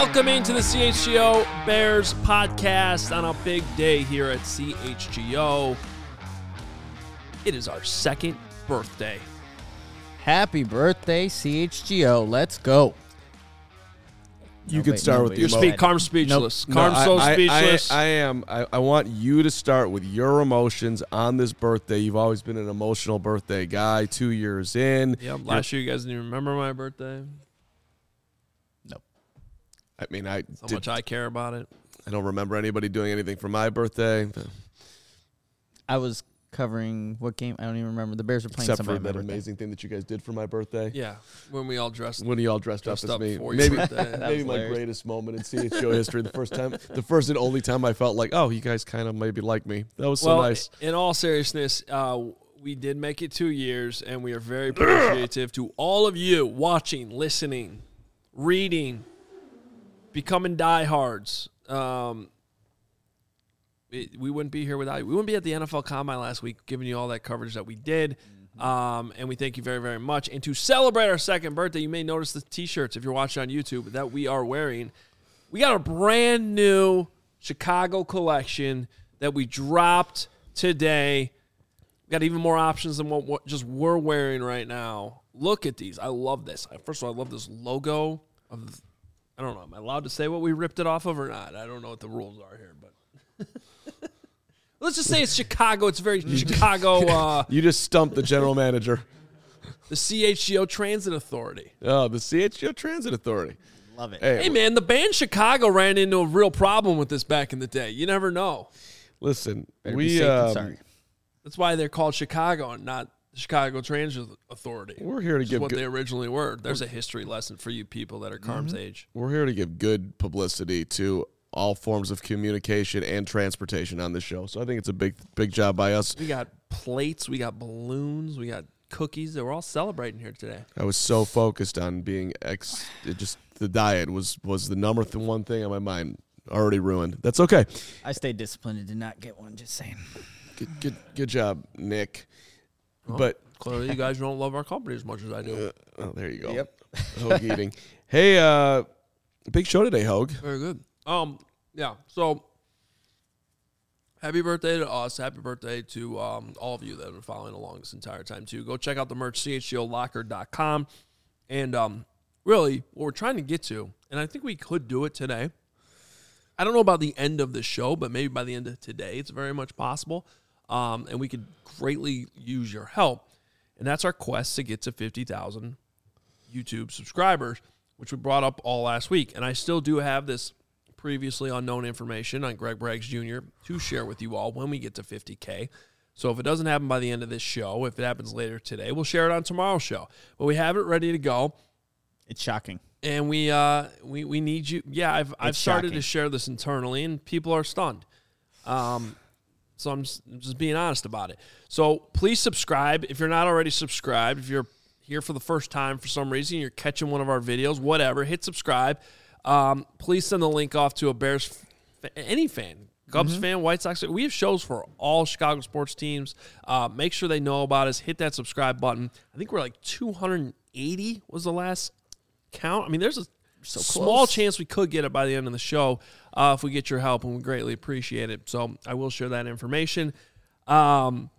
Welcoming to the CHGO Bears podcast on a big day here at CHGO. It is our second birthday. Happy birthday, CHGO. Let's go. You could start with You're Carm's speechless. Carm's so speechless. I am. I want you to start with your emotions on this birthday. You've always been an emotional birthday guy. 2 years in. Yep. Last year, you guys didn't even remember my birthday. Nope. I mean, How much I care about it. I don't remember anybody doing anything for my birthday. I was covering what game? I don't even remember. The Bears were playing Except somebody for on my that birthday. amazing thing that you guys did for my birthday. Yeah, when we all dressed. When you all dressed up as me. for your birthday. Maybe my greatest moment in CHGO history. The first and only time I felt like, oh, you guys kind of maybe like me. That was so nice. In all seriousness, we did make it 2 years, and we are very appreciative to all of you watching, listening, reading, becoming diehards. We wouldn't be here without you. We wouldn't be at the NFL Combine last week giving you all that coverage that we did. And we thank you very, very much. And to celebrate our second birthday, you may notice the T-shirts, if you're watching on YouTube, that we are wearing. We got a brand new Chicago collection that we dropped today. We got even more options than what just we're wearing right now. Look at these. I love this. First of all, I love this logo. I don't know. Am I allowed to say what we ripped it off of or not? I don't know what the rules are here, but let's just say it's Chicago. It's very Chicago. You just stumped the general manager. The CHGO Transit Authority. Oh, the CHGO Transit Authority. Love it. Hey, man, the band Chicago ran into a real problem with this back in the day. You never know. Listen, Better be safe than sorry. That's why they're called Chicago and not the Chicago Transit Authority. We're here to give what they originally were. There's a history lesson for you people that are Carm's age. We're here to give good publicity to all forms of communication and transportation on this show. So I think it's a big job by us. We got plates, we got balloons, we got cookies. We're all celebrating here today. I was so focused on being just the diet was the number one thing on my mind. Already ruined. That's okay. I stayed disciplined and did not get one, just saying. Good job, Nick. Well, but clearly you guys don't love our company as much as I do. There you go. Yep. Hogue eating. Hey, big show today, Hogue. Very good. Yeah. So, happy birthday to us. Happy birthday to all of you that have been following along this entire time, too. Go check out the merch, chgolocker.com. And really, what we're trying to get to, and I think we could do it today. I don't know about the end of the show, but maybe by the end of today, it's very much possible. And we could greatly use your help. And that's our quest to get to 50,000 YouTube subscribers, which we brought up all last week. And I still do have this previously unknown information on Greg Braggs Jr. to share with you all when we get to 50K. So if it doesn't happen by the end of this show, if it happens later today, we'll share it on tomorrow's show. But we have it ready to go. It's shocking. And we need you. Yeah, I've started to share this internally, and people are stunned. So I'm just being honest about it. So please subscribe. If you're not already subscribed, if you're here for the first time for some reason, you're catching one of our videos, whatever, hit subscribe. Please send the link off to a Bears, any fan, Cubs fan, White Sox. We have shows for all Chicago sports teams. Make sure they know about us. Hit that subscribe button. I think we're like 280 was the last count. I mean, there's a small chance we could get it by the end of the show if we get your help, and we greatly appreciate it. So I will share that information. And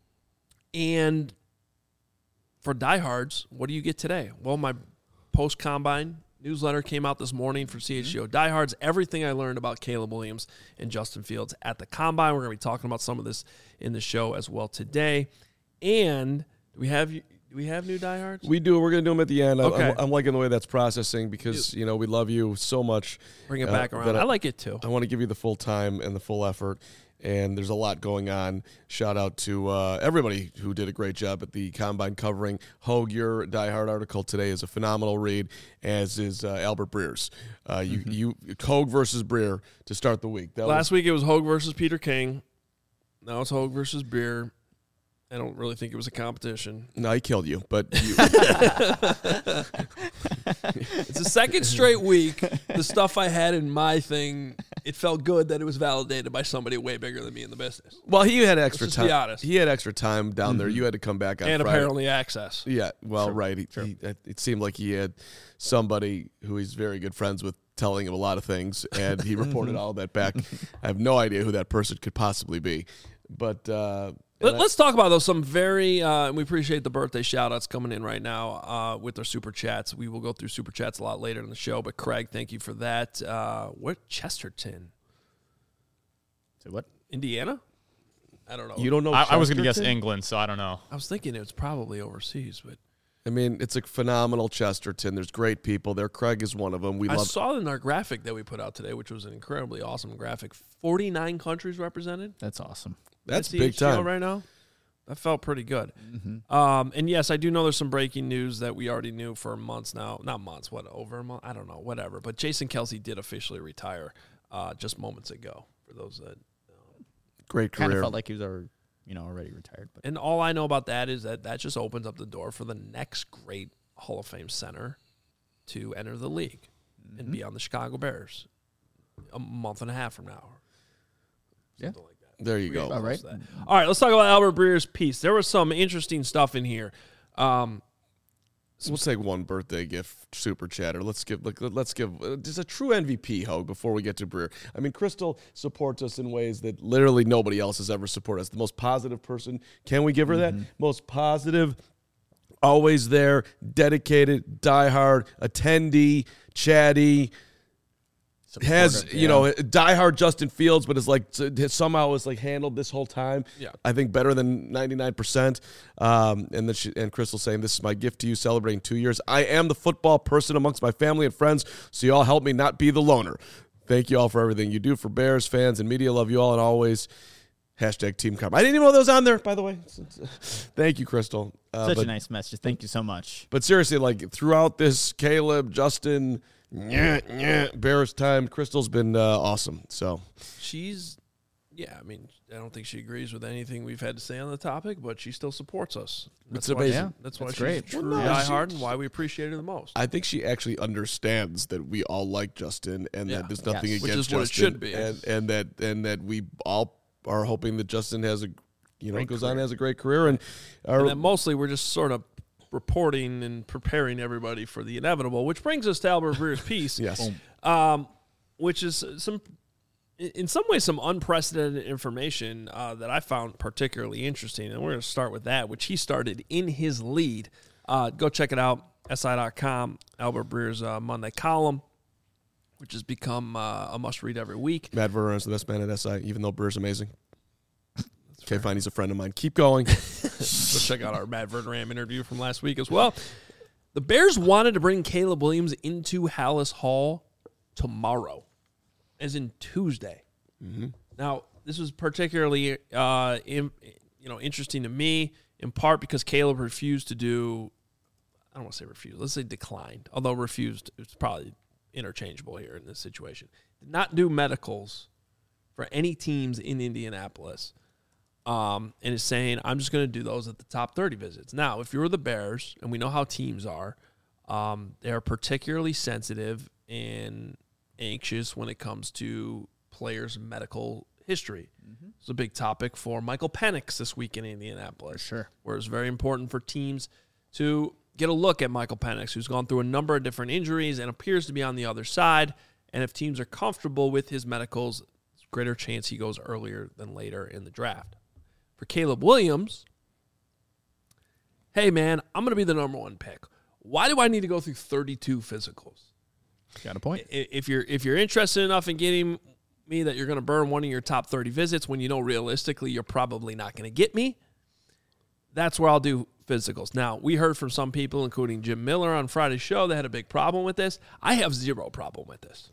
for diehards, what do you get today? Well, my post-combine newsletter came out this morning for CHGO Diehards. Everything I learned about Caleb Williams and Justin Fields at the Combine. We're going to be talking about some of this in the show as well today. And do we have new diehards? We do. We're going to do them at the end. Okay. I'm liking the way that's processing because, we love you so much. Bring it back around. I like it too. I want to give you the full time and the full effort. And there's a lot going on. Shout out to everybody who did a great job at the Combine covering. Hogue, your diehard article today is a phenomenal read, as is Albert Breer's. Hogue versus Breer to start the week. Last week it was Hogue versus Peter King. Now it's Hogue versus Breer. I don't really think it was a competition. No, he killed you, but It's the second straight week. The stuff I had in my thing, it felt good that it was validated by somebody way bigger than me in the business. Well, he had extra Let's just time. be honest. He had extra time down there. You had to come back on And Friday. apparently access. Yeah, well, right. It seemed like he had somebody who he's very good friends with telling him a lot of things, and he reported all that back. I have no idea who that person could possibly be. But let's talk about those. Some very, we appreciate the birthday shout-outs coming in right now with our Super Chats. We will go through Super Chats a lot later in the show, but Craig, thank you for that. What, Chesterton? Say what? Indiana? I don't know. you don't know. I was going to guess Chesterton? England, so I don't know. I was thinking it was probably overseas, but I mean, it's a phenomenal Chesterton. There's great people there. Craig is one of them. We I love. saw in our graphic that we put out today, which was an incredibly awesome graphic. 49 countries represented. That's awesome. That's at big CHGO time. right now. That felt pretty good. And yes, I do know there's some breaking news that we already knew for months now. Not months, what, over a month? I don't know, whatever. But Jason Kelsey did officially retire just moments ago, for those that. Great Kind of career. felt like he was already retired. But And all I know about that is that just opens up the door for the next great Hall of Fame center to enter the league and be on the Chicago Bears a month and a half from now. Something like that. There you go. All right. All right, let's talk about Albert Breer's piece. There was some interesting stuff in here. We'll take one birthday gift, super chatter. Let's give just a true MVP, Hogue, before we get to Breer. I mean, Crystal supports us in ways that literally nobody else has ever supported us. The most positive person. Can we give her that? Most positive, always there, dedicated, diehard, attendee, chatty. Has diehard Justin Fields, but is like somehow is like handled this whole time. Yeah. I think better than 99%. And Crystal saying, "This is my gift to you, celebrating 2 years. I am the football person amongst my family and friends, so you all help me not be the loner. Thank you all for everything you do for Bears fans and media. Love you all and always." Hashtag Team Carm. I didn't even know that was on there, by the way. Thank you, Crystal. such a nice message. Thank you so much. But seriously, like throughout this, Caleb, Justin, Bears time, Crystal's been awesome. So I mean, I don't think she agrees with anything we've had to say on the topic, but she still supports us. It's amazing. Yeah, That's why that's she's great. true Well, no, diehard and why we appreciate her the most. I think she actually understands that we all like Justin and Yeah. that there's nothing Yes. Which against is what it Justin, should be. and that we all are hoping that Justin has a Great goes career. on, has a great career, and And then mostly we're just sort of reporting and preparing everybody for the inevitable, which brings us to Albert Breer's piece. yes, Which is in some ways some unprecedented information that I found particularly interesting. And we're going to start with that, which he started in his lead. Go check it out, SI.com, Albert Breer's Monday column, which has become a must-read every week. Matt Verner is the best man at SI, even though Breer's amazing. Okay, fine, he's a friend of mine. Keep going. Go check out our Matt Verderam interview from last week as well. The Bears wanted to bring Caleb Williams into Hallis Hall tomorrow, as in Tuesday. Now, this was particularly interesting to me, in part because Caleb refused to do, I don't want to say refused, let's say declined, although refused, it's probably interchangeable here in this situation. Did not do medicals for any teams in Indianapolis. And is saying, I'm just going to do those at the top 30 visits. Now, if you're the Bears, and we know how teams are, they're particularly sensitive and anxious when it comes to players' medical history. It's a big topic for Michael Penix this week in Indianapolis. Sure. Where it's very important for teams to get a look at Michael Penix, who's gone through a number of different injuries and appears to be on the other side. And if teams are comfortable with his medicals, there's a greater chance he goes earlier than later in the draft. For Caleb Williams, hey, man, I'm going to be the number one pick. Why do I need to go through 32 physicals? Got a point. If you're interested enough in getting me that you're going to burn one of your top 30 visits when you know realistically you're probably not going to get me, that's where I'll do physicals. Now, we heard from some people, including Jim Miller on Friday's show, that had a big problem with this. I have zero problem with this.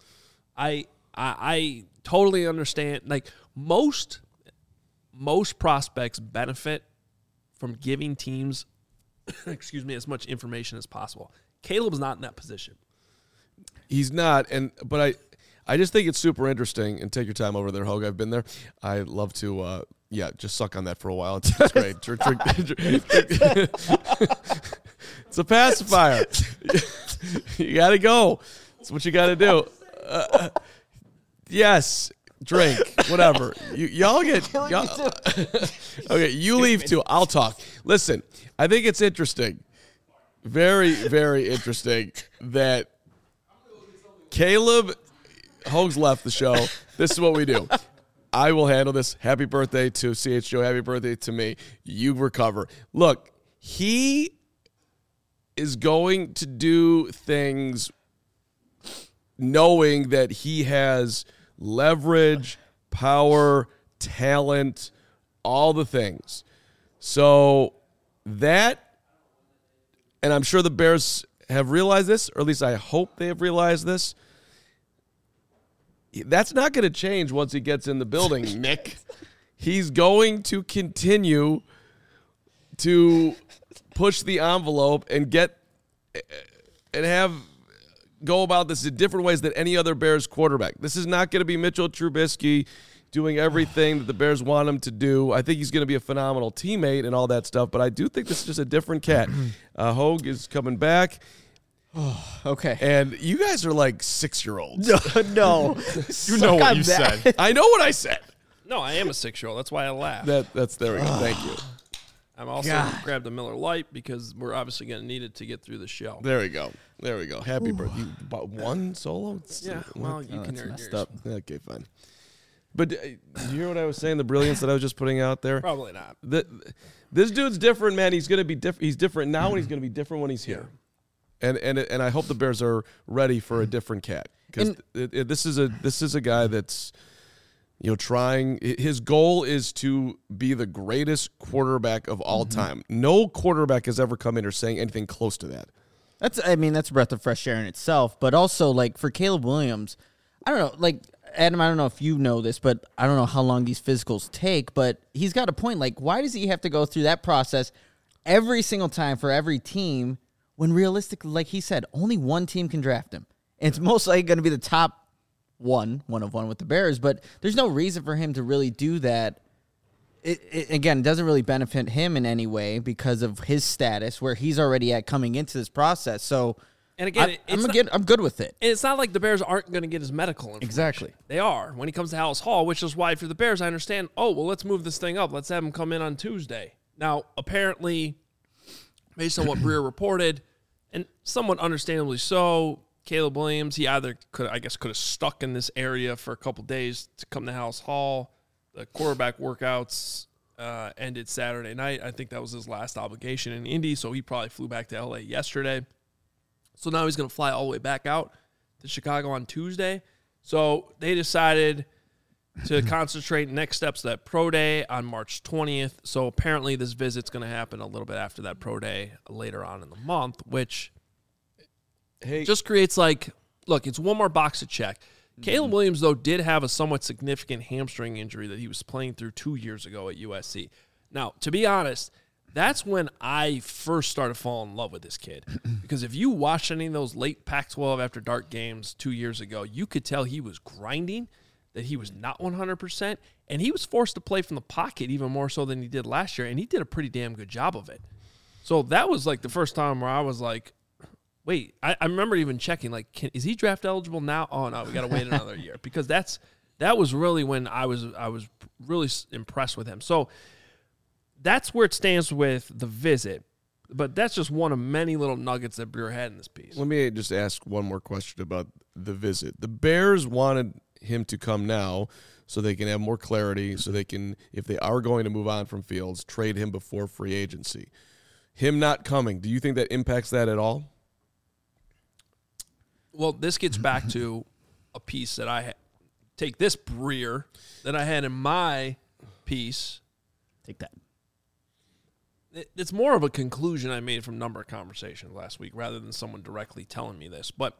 I totally understand. Like most prospects benefit from giving teams, as much information as possible. Caleb's not in that position. he's not. But I just think it's super interesting. And take your time over there, Hogue. I've been there. I love to, just suck on that for a while. It's great. It's a pacifier. You got to go. That's what you got to do. Yes. Drink. Whatever. Y'all get... Okay, you leave too. I'll talk. Listen, I think it's interesting. Very, very interesting that Caleb Hogue's left the show. This is what we do. I will handle this. Happy birthday to CHGO. Happy birthday to me. You recover. Look, he is going to do things knowing that he has leverage, power, talent, all the things. So that, and I'm sure the Bears have realized this, or at least I hope they have realized this. That's not going to change once he gets in the building, Nick. He's going to continue to push the envelope and go about this in different ways than any other Bears quarterback. This is not going to be Mitchell Trubisky doing everything that the Bears want him to do. I think he's going to be a phenomenal teammate and all that stuff, but I do think this is just a different cat. Hogue is coming back. Okay. And you guys are like 6-year-olds. No. You know what you said. I know what I said. No, I am a 6-year-old. That's why I laugh. That's there we go. Thank you. I'm also grabbed a Miller Lite because we're obviously going to need it to get through the show. There we go. Happy birthday. You bought one solo? Yeah, well, you can earn messed yours. up. Okay, fine. But did you hear what I was saying? The brilliance that I was just putting out there? Probably not. This dude's different, man. He's going to be different. He's different now, and he's going to be different when he's here. And I hope the Bears are ready for a different cat, because this is a guy that's, trying. His goal is to be the greatest quarterback of all time. No quarterback has ever come in or saying anything close to that. That's a breath of fresh air in itself. But also, like, for Caleb Williams, I don't know, like, Adam, I don't know if you know this, but I don't know how long these physicals take, but he's got a point. Like, why does he have to go through that process every single time for every team when realistically, like he said, only one team can draft him? And it's most likely going to be the top one of one with the Bears, but there's no reason for him to really do that. Again, it doesn't really benefit him in any way because of his status where he's already at coming into this process. So, and again, I'm good with it. And it's not like the Bears aren't going to get his medical information. Exactly. They are. When he comes to Hallis Hall, which is why if you're the Bears, I understand, let's move this thing up. Let's have him come in on Tuesday. Now, apparently, based on what Breer reported, and somewhat understandably so, Caleb Williams, he either could have stuck in this area for a couple days to come to Hallis Hall. The quarterback workouts ended Saturday night. I think that was his last obligation in Indy, so he probably flew back to L.A. yesterday. So now he's going to fly all the way back out to Chicago on Tuesday. So they decided to concentrate next steps to that pro day on March 20th. So apparently this visit's going to happen a little bit after that pro day later on in the month, which just creates it's one more box to check. Caleb Williams, though, did have a somewhat significant hamstring injury that he was playing through 2 years ago at USC. Now, to be honest, that's when I first started falling in love with this kid. Because if you watched any of those late Pac-12 after dark games 2 years ago, you could tell he was grinding, that he was not 100%, and he was forced to play from the pocket even more so than he did last year, and he did a pretty damn good job of it. So that was like the first time where I was like, wait, I remember even checking, is he draft eligible now? Oh, no, we got to wait another year. Because that was really when I was really impressed with him. So that's where it stands with the visit. But that's just one of many little nuggets that Breer had in this piece. Let me just ask one more question about the visit. The Bears wanted him to come now so they can have more clarity, so they can, if they are going to move on from Fields, trade him before free agency. Him not coming, do you think that impacts that at all? Well, this gets back to a piece that I take this Breer that I had in my piece. Take that. It's more of a conclusion I made from a number of conversations last week rather than someone directly telling me this. But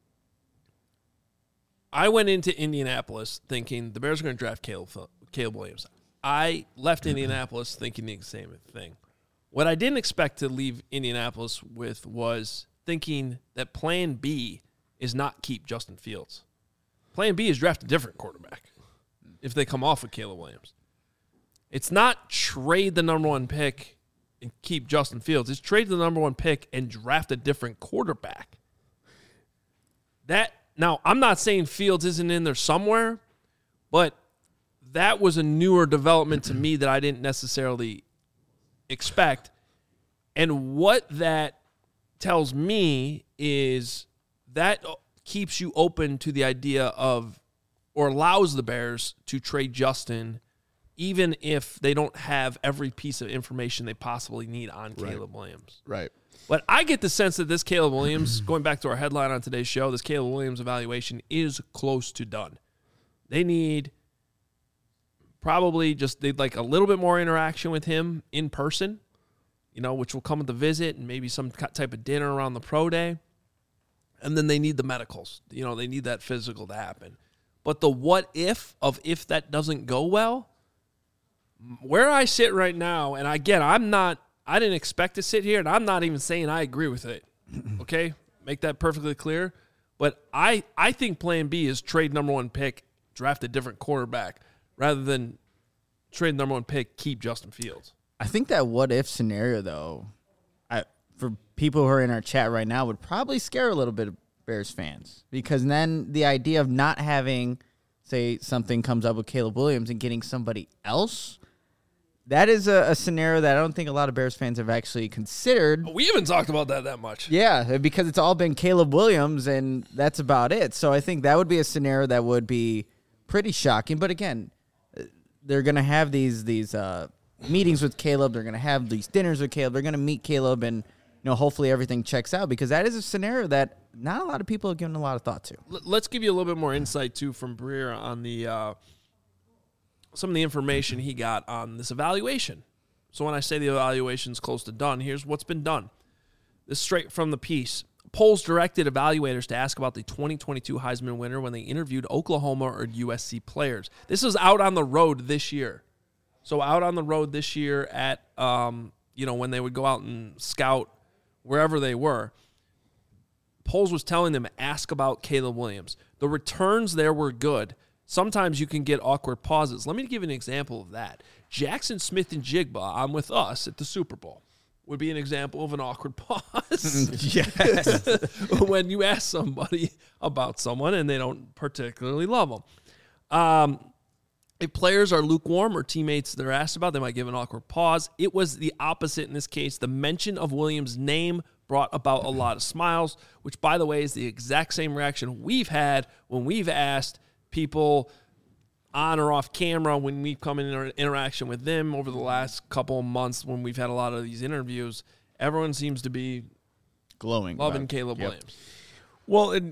I went into Indianapolis thinking the Bears are going to draft Caleb Williams. I left Indianapolis thinking the same thing. What I didn't expect to leave Indianapolis with was thinking that plan B is not keep Justin Fields. Plan B is draft a different quarterback if they come off of Caleb Williams. It's not trade the number one pick and keep Justin Fields. It's trade the number one pick and draft a different quarterback Now, I'm not saying Fields isn't in there somewhere, but that was a newer development to me that I didn't necessarily expect. And what that tells me is that keeps you open to the idea of, or allows the Bears to trade Justin, even if they don't have every piece of information they possibly need on Caleb Williams. Right. But I get the sense that this Caleb Williams, going back to our headline on today's show, this Caleb Williams evaluation is close to done. They need they'd like a little bit more interaction with him in person, which will come with the visit and maybe some type of dinner around the pro day. And then they need the medicals. They need that physical to happen. But the what if that doesn't go well, where I sit right now, and again, I didn't expect to sit here, and I'm not even saying I agree with it. Okay? Make that perfectly clear. But I think plan B is trade number 1 pick, draft a different quarterback, rather than trade number 1 pick, keep Justin Fields. I think that what if scenario, though, for people who are in our chat right now, would probably scare a little bit of Bears fans, because then the idea of not having, say, something comes up with Caleb Williams and getting somebody else, that is a scenario that I don't think a lot of Bears fans have actually considered. We haven't talked about that much. Yeah, because it's all been Caleb Williams, and that's about it. So I think that would be a scenario that would be pretty shocking. But again, they're going to have these meetings with Caleb. They're going to have these dinners with Caleb. They're going to meet Caleb, and hopefully everything checks out, because that is a scenario that not a lot of people have given a lot of thought to. Let's give you a little bit more insight, too, from Breer on the some of the information he got on this evaluation. So when I say the evaluation's close to done, here's what's been done. This is straight from the piece. Polls directed evaluators to ask about the 2022 Heisman winner when they interviewed Oklahoma or USC players. This was out on the road this year. So out on the road this year at, when they would go out and scout wherever they were. Polls was telling them, ask about Caleb Williams. The returns there were good. Sometimes you can get awkward pauses. Let me give you an example of that. Jackson Smith and Jigba on With Us at the Super Bowl would be an example of an awkward pause. Yes. When you ask somebody about someone and they don't particularly love them. If players are lukewarm or teammates they're asked about, they might give an awkward pause. It was the opposite in this case. The mention of Williams' name brought about a lot of smiles, which, by the way, is the exact same reaction we've had when we've asked people on or off camera when we've come in interaction with them over the last couple of months when we've had a lot of these interviews. Everyone seems to be glowing, loving Caleb Williams. Well, and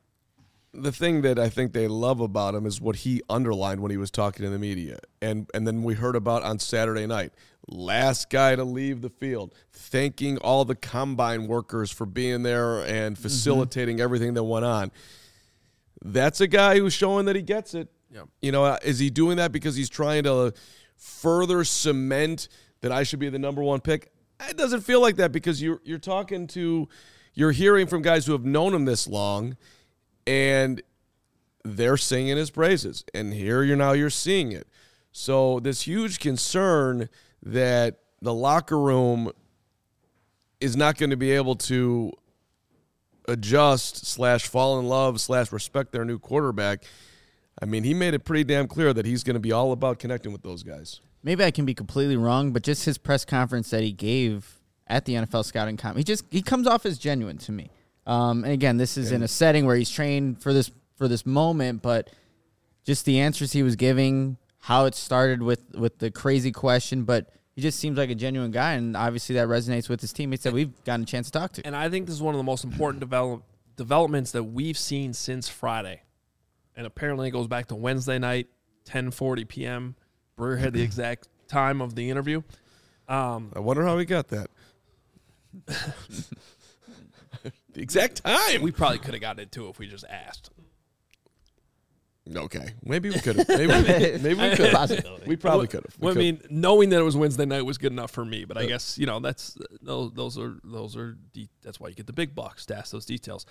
the thing that I think they love about him is what he underlined when he was talking to the media. And then we heard about on Saturday night, last guy to leave the field, thanking all the combine workers for being there and facilitating everything that went on. That's a guy who's showing that he gets it. Yeah. Is he doing that because he's trying to further cement that I should be the number 1 pick? It doesn't feel like that, because you're hearing from guys who have known him this long, and they're singing his praises. And here you're seeing it. So this huge concern that the locker room is not going to be able to adjust / fall in love / respect their new quarterback. I mean, he made it pretty damn clear that he's going to be all about connecting with those guys. Maybe I can be completely wrong, but just his press conference that he gave at the NFL Scouting Combine, he comes off as genuine to me. And again, this is in a setting where he's trained for this moment, but just the answers he was giving, how it started with the crazy question, but he just seems like a genuine guy, and obviously that resonates with his teammates that we've gotten a chance to talk to. And I think this is one of the most important developments that we've seen since Friday. And apparently it goes back to Wednesday night, 10:40 p.m. Breer had the exact time of the interview. I wonder how he got that. The exact time. We probably could have gotten it too if we just asked. Okay, maybe we could have. Maybe we could have. We probably could have. I mean, knowing that it was Wednesday night was good enough for me. But I guess that's those are that's why you get the big bucks to ask those details.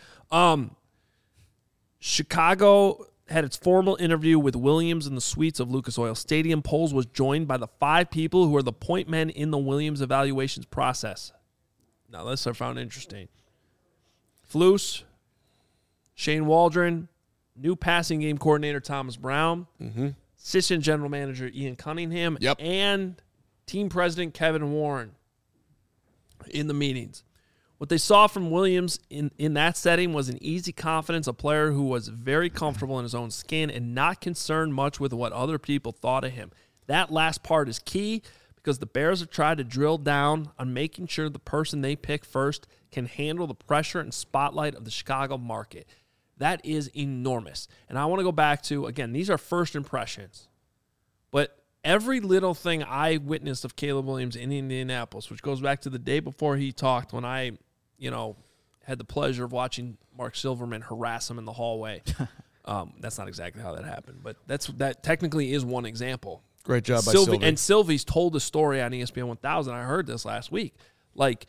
Chicago had its formal interview with Williams in the suites of Lucas Oil Stadium. Poles was joined by the 5 people who are the point men in the Williams evaluations process. Now, this I found interesting. Flus, Shane Waldron, new passing game coordinator Thomas Brown, assistant general manager Ian Cunningham, and team president Kevin Warren in the meetings. What they saw from Williams in that setting was an easy confidence, a player who was very comfortable in his own skin and not concerned much with what other people thought of him. That last part is key because the Bears have tried to drill down on making sure the person they pick first can handle the pressure and spotlight of the Chicago market. That is enormous. And I want to go back to, again, these are first impressions. But every little thing I witnessed of Caleb Williams in Indianapolis, which goes back to the day before he talked when I, had the pleasure of watching Mark Silverman harass him in the hallway. That's not exactly how that happened, but that technically is one example. Great job by Sylvie. And Sylvie's told a story on ESPN 1000. I heard this last week. Like,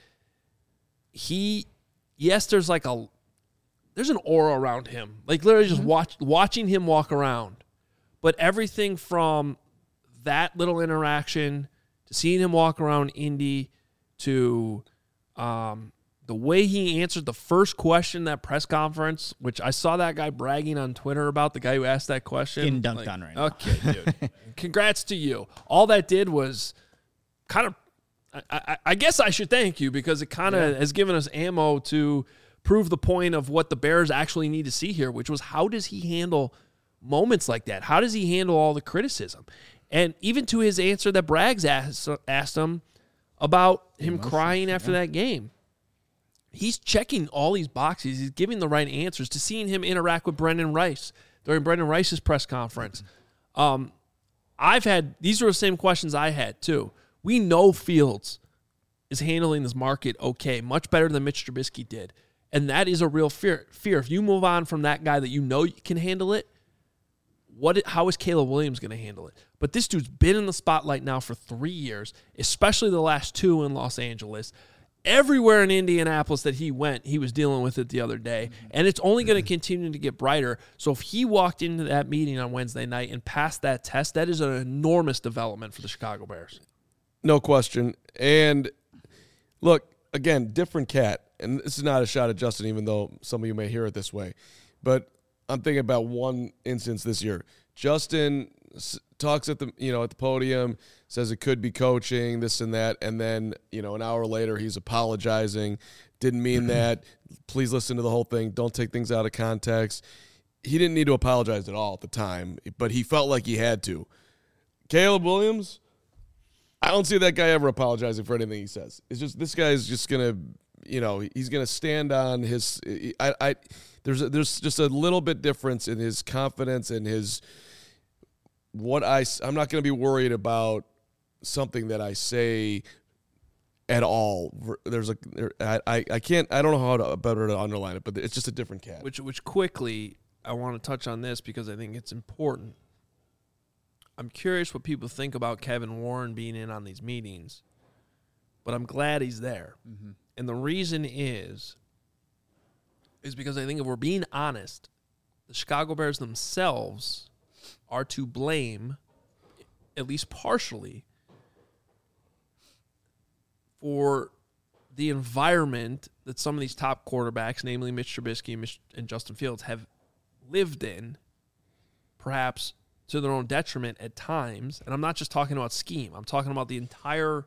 there's an aura around him. Like, literally just watching him walk around. But everything from that little interaction to seeing him walk around Indy to the way he answered the first question in that press conference, which I saw that guy bragging on Twitter about, the guy who asked that question. Getting dunked on right now. Okay, dude. Congrats to you. All that did was kind of, I guess I should thank you because it kind of has given us ammo to prove the point of what the Bears actually need to see here, which was how does he handle moments like that? How does he handle all the criticism? And even to his answer that Braggs asked him about him crying after that game. He's checking all these boxes. He's giving the right answers to seeing him interact with Brendan Rice during Brendan Rice's press conference. These are the same questions I had too. We know Fields is handling this market okay, much better than Mitch Trubisky did. And that is a real fear. If you move on from that guy that you know can handle it, how is Caleb Williams going to handle it? But this dude's been in the spotlight now for 3 years, especially the last 2 in Los Angeles. Everywhere in Indianapolis that he went, he was dealing with it the other day. And it's only going to continue to get brighter. So if he walked into that meeting on Wednesday night and passed that test, that is an enormous development for the Chicago Bears. No question. And look, again, different cat. And this is not a shot at Justin, even though some of you may hear it this way. But I'm thinking about one instance this year. Justin talks at the podium, says it could be coaching, this and that, and then an hour later he's apologizing. Didn't mean that. Please listen to the whole thing. Don't take things out of context. He didn't need to apologize at all at the time, but he felt like he had to. Caleb Williams, I don't see that guy ever apologizing for anything he says. It's just this guy is just gonna, he's gonna stand on his. There's just a little bit difference in his confidence and his. I'm not going to be worried about something that I say at all. I don't know how to better to underline it, but it's just a different cat. Which quickly, I want to touch on this because I think it's important. I'm curious what people think about Kevin Warren being in on these meetings, but I'm glad he's there. Mm-hmm. And the reason is because I think if we're being honest, the Chicago Bears themselves are to blame, at least partially, for the environment that some of these top quarterbacks, namely Mitch Trubisky and Justin Fields, have lived in, perhaps to their own detriment at times. And I'm not just talking about scheme. I'm talking about the entire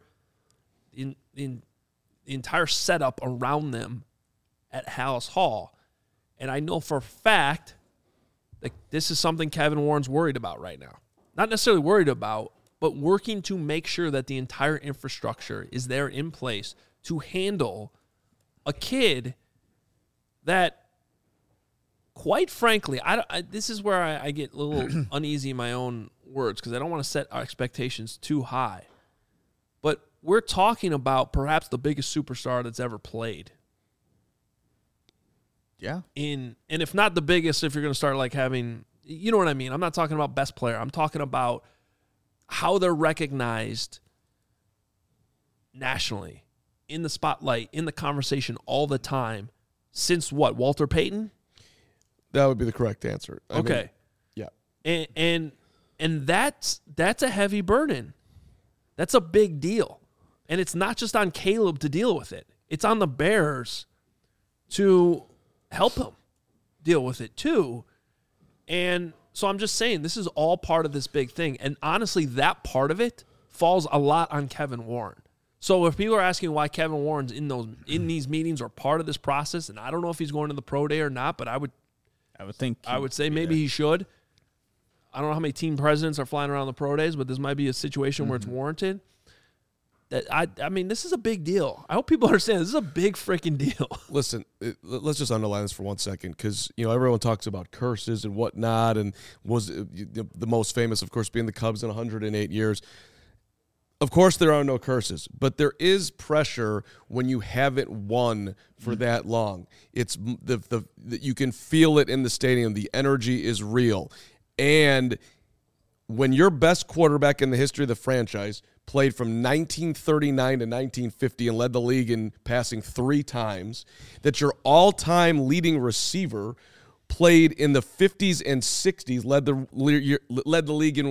setup around them at Halas Hall. And I know for a fact that this is something Kevin Warren's worried about right now. Not necessarily worried about, but working to make sure that the entire infrastructure is there in place to handle a kid that, quite frankly, this is where I get a little uneasy in my own words because I don't want to set our expectations too high. But we're talking about perhaps the biggest superstar that's ever played. Yeah. And if not the biggest, if you're going to start like having, you know what I mean? I'm not talking about best player. I'm talking about how they're recognized nationally, in the spotlight, in the conversation all the time. Since what? Walter Payton? That would be the correct answer. I mean, yeah. And that's a heavy burden. That's a big deal. And it's not just on Caleb to deal with it. It's on the Bears to help him. deal with it too. And so I'm just saying this is all part of this big thing. And honestly, that part of it falls a lot on Kevin Warren. So if people are asking why Kevin Warren's in these meetings or part of this process, and I don't know if he's going to the pro day or not, but I would say maybe he should. I don't know how many team presidents are flying around the pro days, but this might be a situation where it's warranted. That I mean, this is a big deal. I hope people understand this is a big freaking deal. Listen, let's just underline this for 1 second, because everyone talks about curses and whatnot, and was the most famous, of course, being the Cubs in 108 years. Of course, there are no curses, but there is pressure when you haven't won for that long. It's you can feel it in the stadium. The energy is real, and when your best quarterback in the history of the franchise played from 1939 to 1950 and led the league in passing 3 times, that your all-time leading receiver played in the 50s and 60s, led the league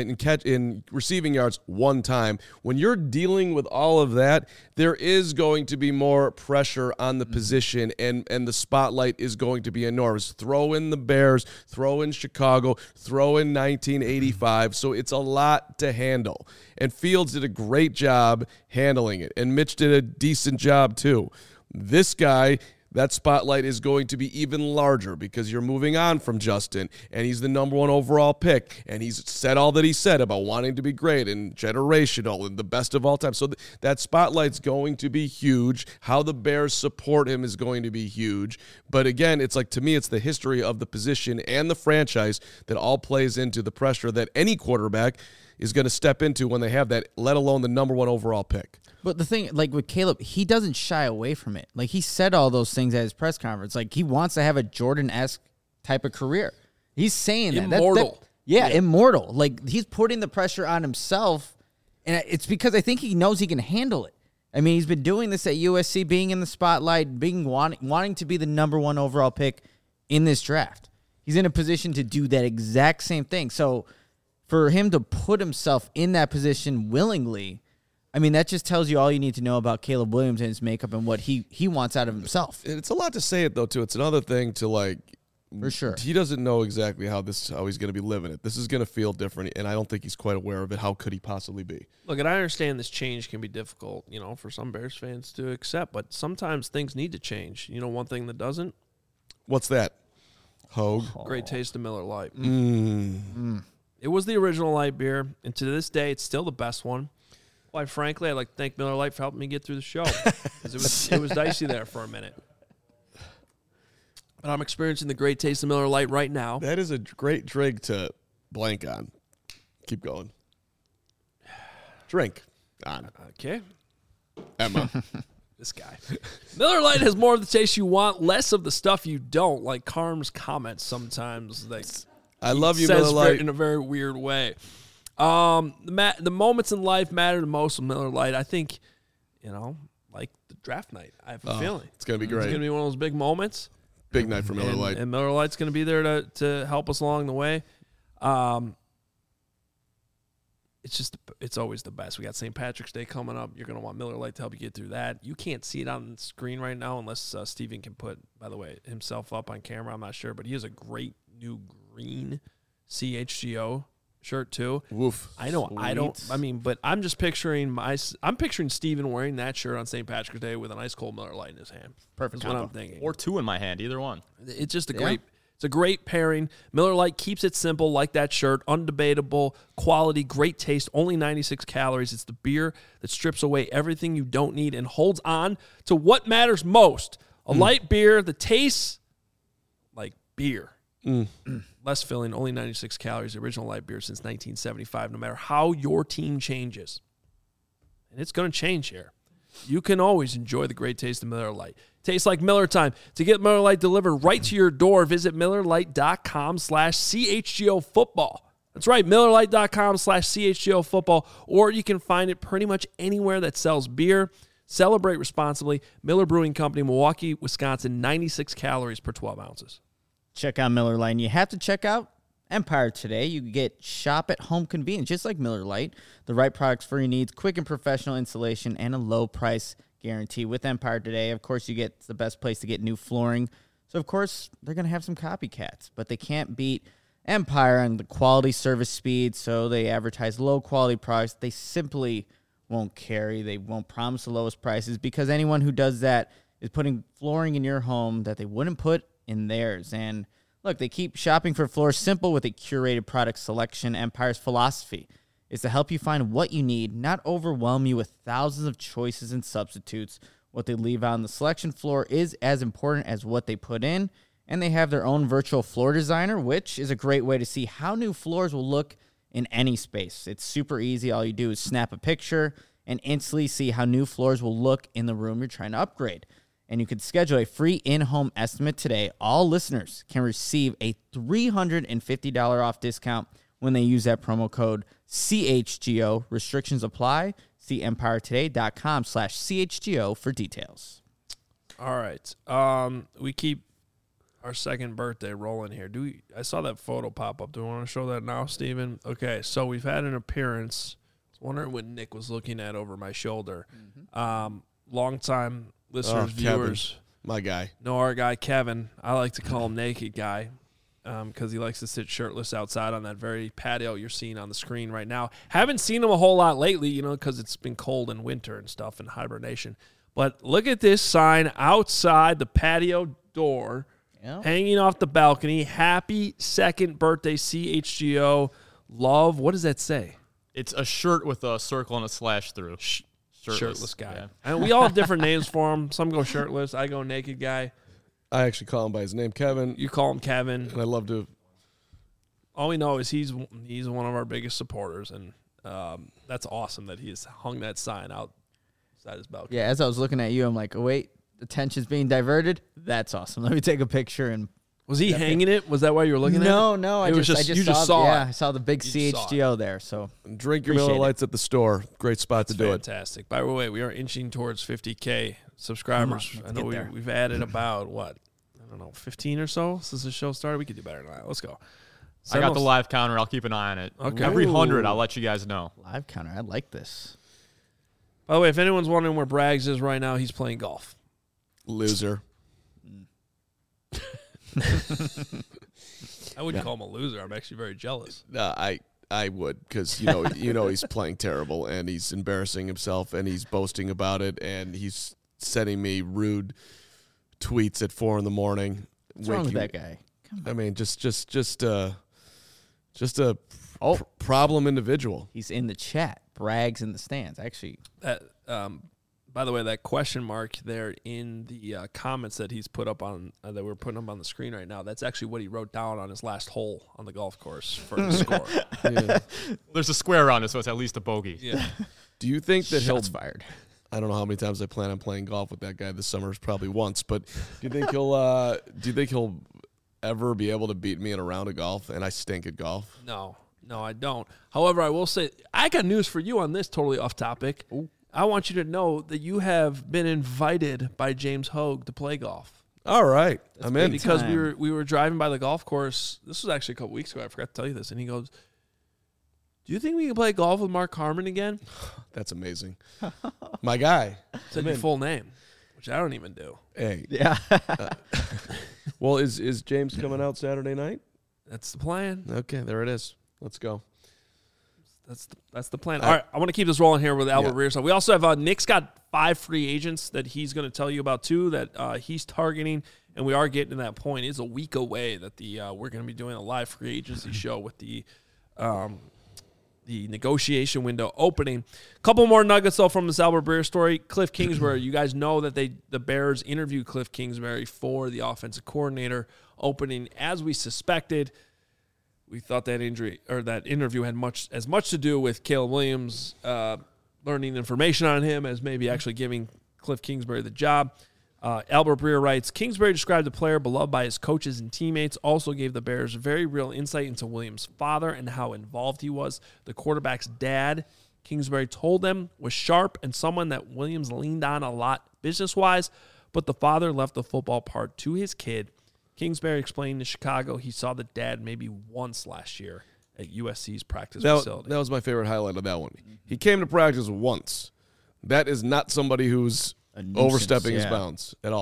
in receiving yards 1 time. When you're dealing with all of that, there is going to be more pressure on the position, and the spotlight is going to be enormous. Throw in the Bears, throw in Chicago, throw in 1985. So it's a lot to handle. And Fields did a great job handling it, and Mitch did a decent job too. This guy, that spotlight is going to be even larger because you're moving on from Justin, and he's the number 1 overall pick, and he's said all that he said about wanting to be great and generational and the best of all time. So that spotlight's going to be huge. How the Bears support him is going to be huge. But again, it's like, to me, it's the history of the position and the franchise that all plays into the pressure that any quarterback is going to step into when they have that, let alone the number 1 overall pick. But the thing, like with Caleb, he doesn't shy away from it. Like, he said all those things at his press conference. Like, he wants to have a Jordan-esque type of career. He's saying that. Immortal. Immortal. Like, he's putting the pressure on himself, and it's because I think he knows he can handle it. I mean, he's been doing this at USC, being in the spotlight, wanting to be the number 1 overall pick in this draft. He's in a position to do that exact same thing. So for him to put himself in that position willingly, I mean, that just tells you all you need to know about Caleb Williams and his makeup and what he wants out of himself. It's a lot to say it, though, too. It's another thing to, like, for sure, he doesn't know exactly how he's going to be living it. This is going to feel different, and I don't think he's quite aware of it. How could he possibly be? Look, and I understand this change can be difficult, for some Bears fans to accept, but sometimes things need to change. One thing that doesn't? What's that? Hogue? Great taste of Miller Lite. It was the original light beer, and to this day, it's still the best one. Quite frankly, I'd like to thank Miller Lite for helping me get through the show, because it was dicey there for a minute. But I'm experiencing the great taste of Miller Lite right now. That is a great drink to blank on. Keep going. Drink on. Okay. Emma. This guy. Miller Lite has more of the taste you want, less of the stuff you don't, like Carm's comments sometimes. I love you, Miller Lite. In a very weird way. The moments in life matter the most with Miller Lite. I think, like the draft night. I have a feeling it's going to be great. It's going to be one of those big moments. Big night for Miller Lite. And Miller Lite's going to be there to help us along the way. It's always the best. We got St. Patrick's Day coming up. You're going to want Miller Lite to help you get through that. You can't see it on the screen right now unless Steven can put, by the way, himself up on camera. I'm not sure, but he has a great new green CHGO shirt too. Woof. I know. Sweet. But I'm just picturing I'm picturing Steven wearing that shirt on St. Patrick's Day with an ice cold Miller Lite in his hand. Perfect. That's what I'm thinking. Or 2 in my hand, either one. It's just it's a great pairing. Miller Lite keeps it simple, like that shirt. Undebatable quality, great taste. Only 96 calories. It's the beer that strips away everything you don't need and holds on to what matters most. A light beer that tastes like beer. Less filling, only 96 calories, original light beer since 1975, no matter how your team changes. And it's going to change here. You can always enjoy the great taste of Miller Lite. Tastes like Miller time. To get Miller Lite delivered right to your door, visit MillerLite.com/CHGO football. That's right, MillerLite.com/CHGO football, or you can find it pretty much anywhere that sells beer. Celebrate responsibly. Miller Brewing Company, Milwaukee, Wisconsin, 96 calories per 12 ounces. Check out Miller Lite. And you have to check out Empire today. You get shop at home convenience, just like Miller Lite. The right products for your needs, quick and professional installation, and a low price guarantee. With Empire today, of course, you get the best place to get new flooring, So, of course, they're going to have some copycats, but they can't beat Empire on the quality, service, speed, so they advertise low-quality products. They simply won't carry. They won't promise the lowest prices because anyone who does that is putting flooring in your home that they wouldn't put in theirs. And look, they keep shopping for floors simple with a curated product selection. Empire's philosophy is to help you find what you need, not overwhelm you with thousands of choices and substitutes. What they leave out on the selection floor is as important as what they put in, and they have their own virtual floor designer, which is a great way to see how new floors will look in any space. It's super easy. All you do is snap a picture and instantly see how new floors will look in the room you're trying to upgrade. And you can schedule a free in-home estimate today. All listeners can receive a $350 off discount when they use that promo code CHGO. Restrictions apply. See EmpireToday.com/CHGO for details. All right. We keep our second birthday rolling here. I saw that photo pop up. Do we want to show that now, Steven? Okay, so we've had an appearance. I was wondering what Nick was looking at over my shoulder. Long-time listeners, viewers. Kevin, my guy. Know our guy, Kevin. I like to call him Naked Guy. Because he likes to sit shirtless outside on that very patio you're seeing on the screen right now. Haven't seen him a whole lot lately, because it's been cold in winter and stuff and hibernation. But look at this sign outside the patio door, hanging off the balcony. Happy second birthday, CHGO. Love. What does that say? It's a shirt with a circle and a slash through. Shirtless guy. Yeah. And we all have different names for him. Some go shirtless. I go Naked Guy. I actually call him by his name, Kevin. You call him Kevin. And I love to. All we know is he's one of our biggest supporters, and that's awesome that he has hung that sign outside his balcony. Yeah, as I was looking at you, I'm like, oh, wait, attention's being diverted? That's awesome. Let me take a picture. And Was he hanging it? Was that why you were looking at it? No. You just saw it. Yeah, I saw the big CHGO there. So Drink your Miller Lights at the store. Great spot to do it. Fantastic. By the way, we are inching towards 50K subscribers. I know we've added about, 15 or so since the show started. We could do better than that. Let's go. I got the live counter. I'll keep an eye on it. Okay. Every 100, I'll let you guys know. Live counter. I like this. By the way, if anyone's wondering where Braggs is right now, he's playing golf. Loser. I wouldn't call him a loser. I'm actually very jealous. I would, because he's playing terrible and he's embarrassing himself and he's boasting about it and he's sending me rude tweets at 4 a.m. What's wrong with that guy? I mean, just a problem individual. He's in the chat. Braggs in the stands. Actually, by the way, that question mark there in the comments that he's put up on that we're putting up on the screen right now, that's actually what he wrote down on his last hole on the golf course for his score. Yeah. There's a square on it, so it's at least a bogey. Yeah. Do you think that shots fired? I don't know how many times I plan on playing golf with that guy this summer. It's probably once, but do you think he'll ever be able to beat me in a round of golf? And I stink at golf. No, I don't. However, I will say I got news for you on this. Totally off topic. Ooh. I want you to know that you have been invited by James Hogue to play golf. All right, I'm in. Because we were driving by the golf course. This was actually a couple weeks ago. I forgot to tell you this, and he goes, "Do you think we can play golf with Mark Harmon again?" That's amazing. My guy. Said your full name, which I don't even do. Hey. Yeah. Well, is James coming out Saturday night? That's the plan. Okay, there it is. Let's go. That's the plan. All right, I want to keep this rolling here with Albert Rear. So we also have Nick's got 5 free agents that he's going to tell you about too that he's targeting, and we are getting to that point. It's a week away that we're going to be doing a live free agency show with the negotiation window opening. A couple more nuggets though from this Albert Breer story. Cliff Kingsbury, you guys know that the Bears interviewed Cliff Kingsbury for the offensive coordinator opening as we suspected. We thought that interview had as much to do with Caleb Williams learning information on him as maybe actually giving Cliff Kingsbury the job. Albert Breer writes, Kingsbury described the player beloved by his coaches and teammates, also gave the Bears very real insight into Williams' father and how involved he was. The quarterback's dad, Kingsbury told them, was sharp and someone that Williams leaned on a lot business-wise, but the father left the football part to his kid. Kingsbury explained to Chicago he saw the dad maybe once last year at USC's practice facility. That was my favorite highlight of that one. He came to practice once. That is not somebody who's overstepping his bounds at all.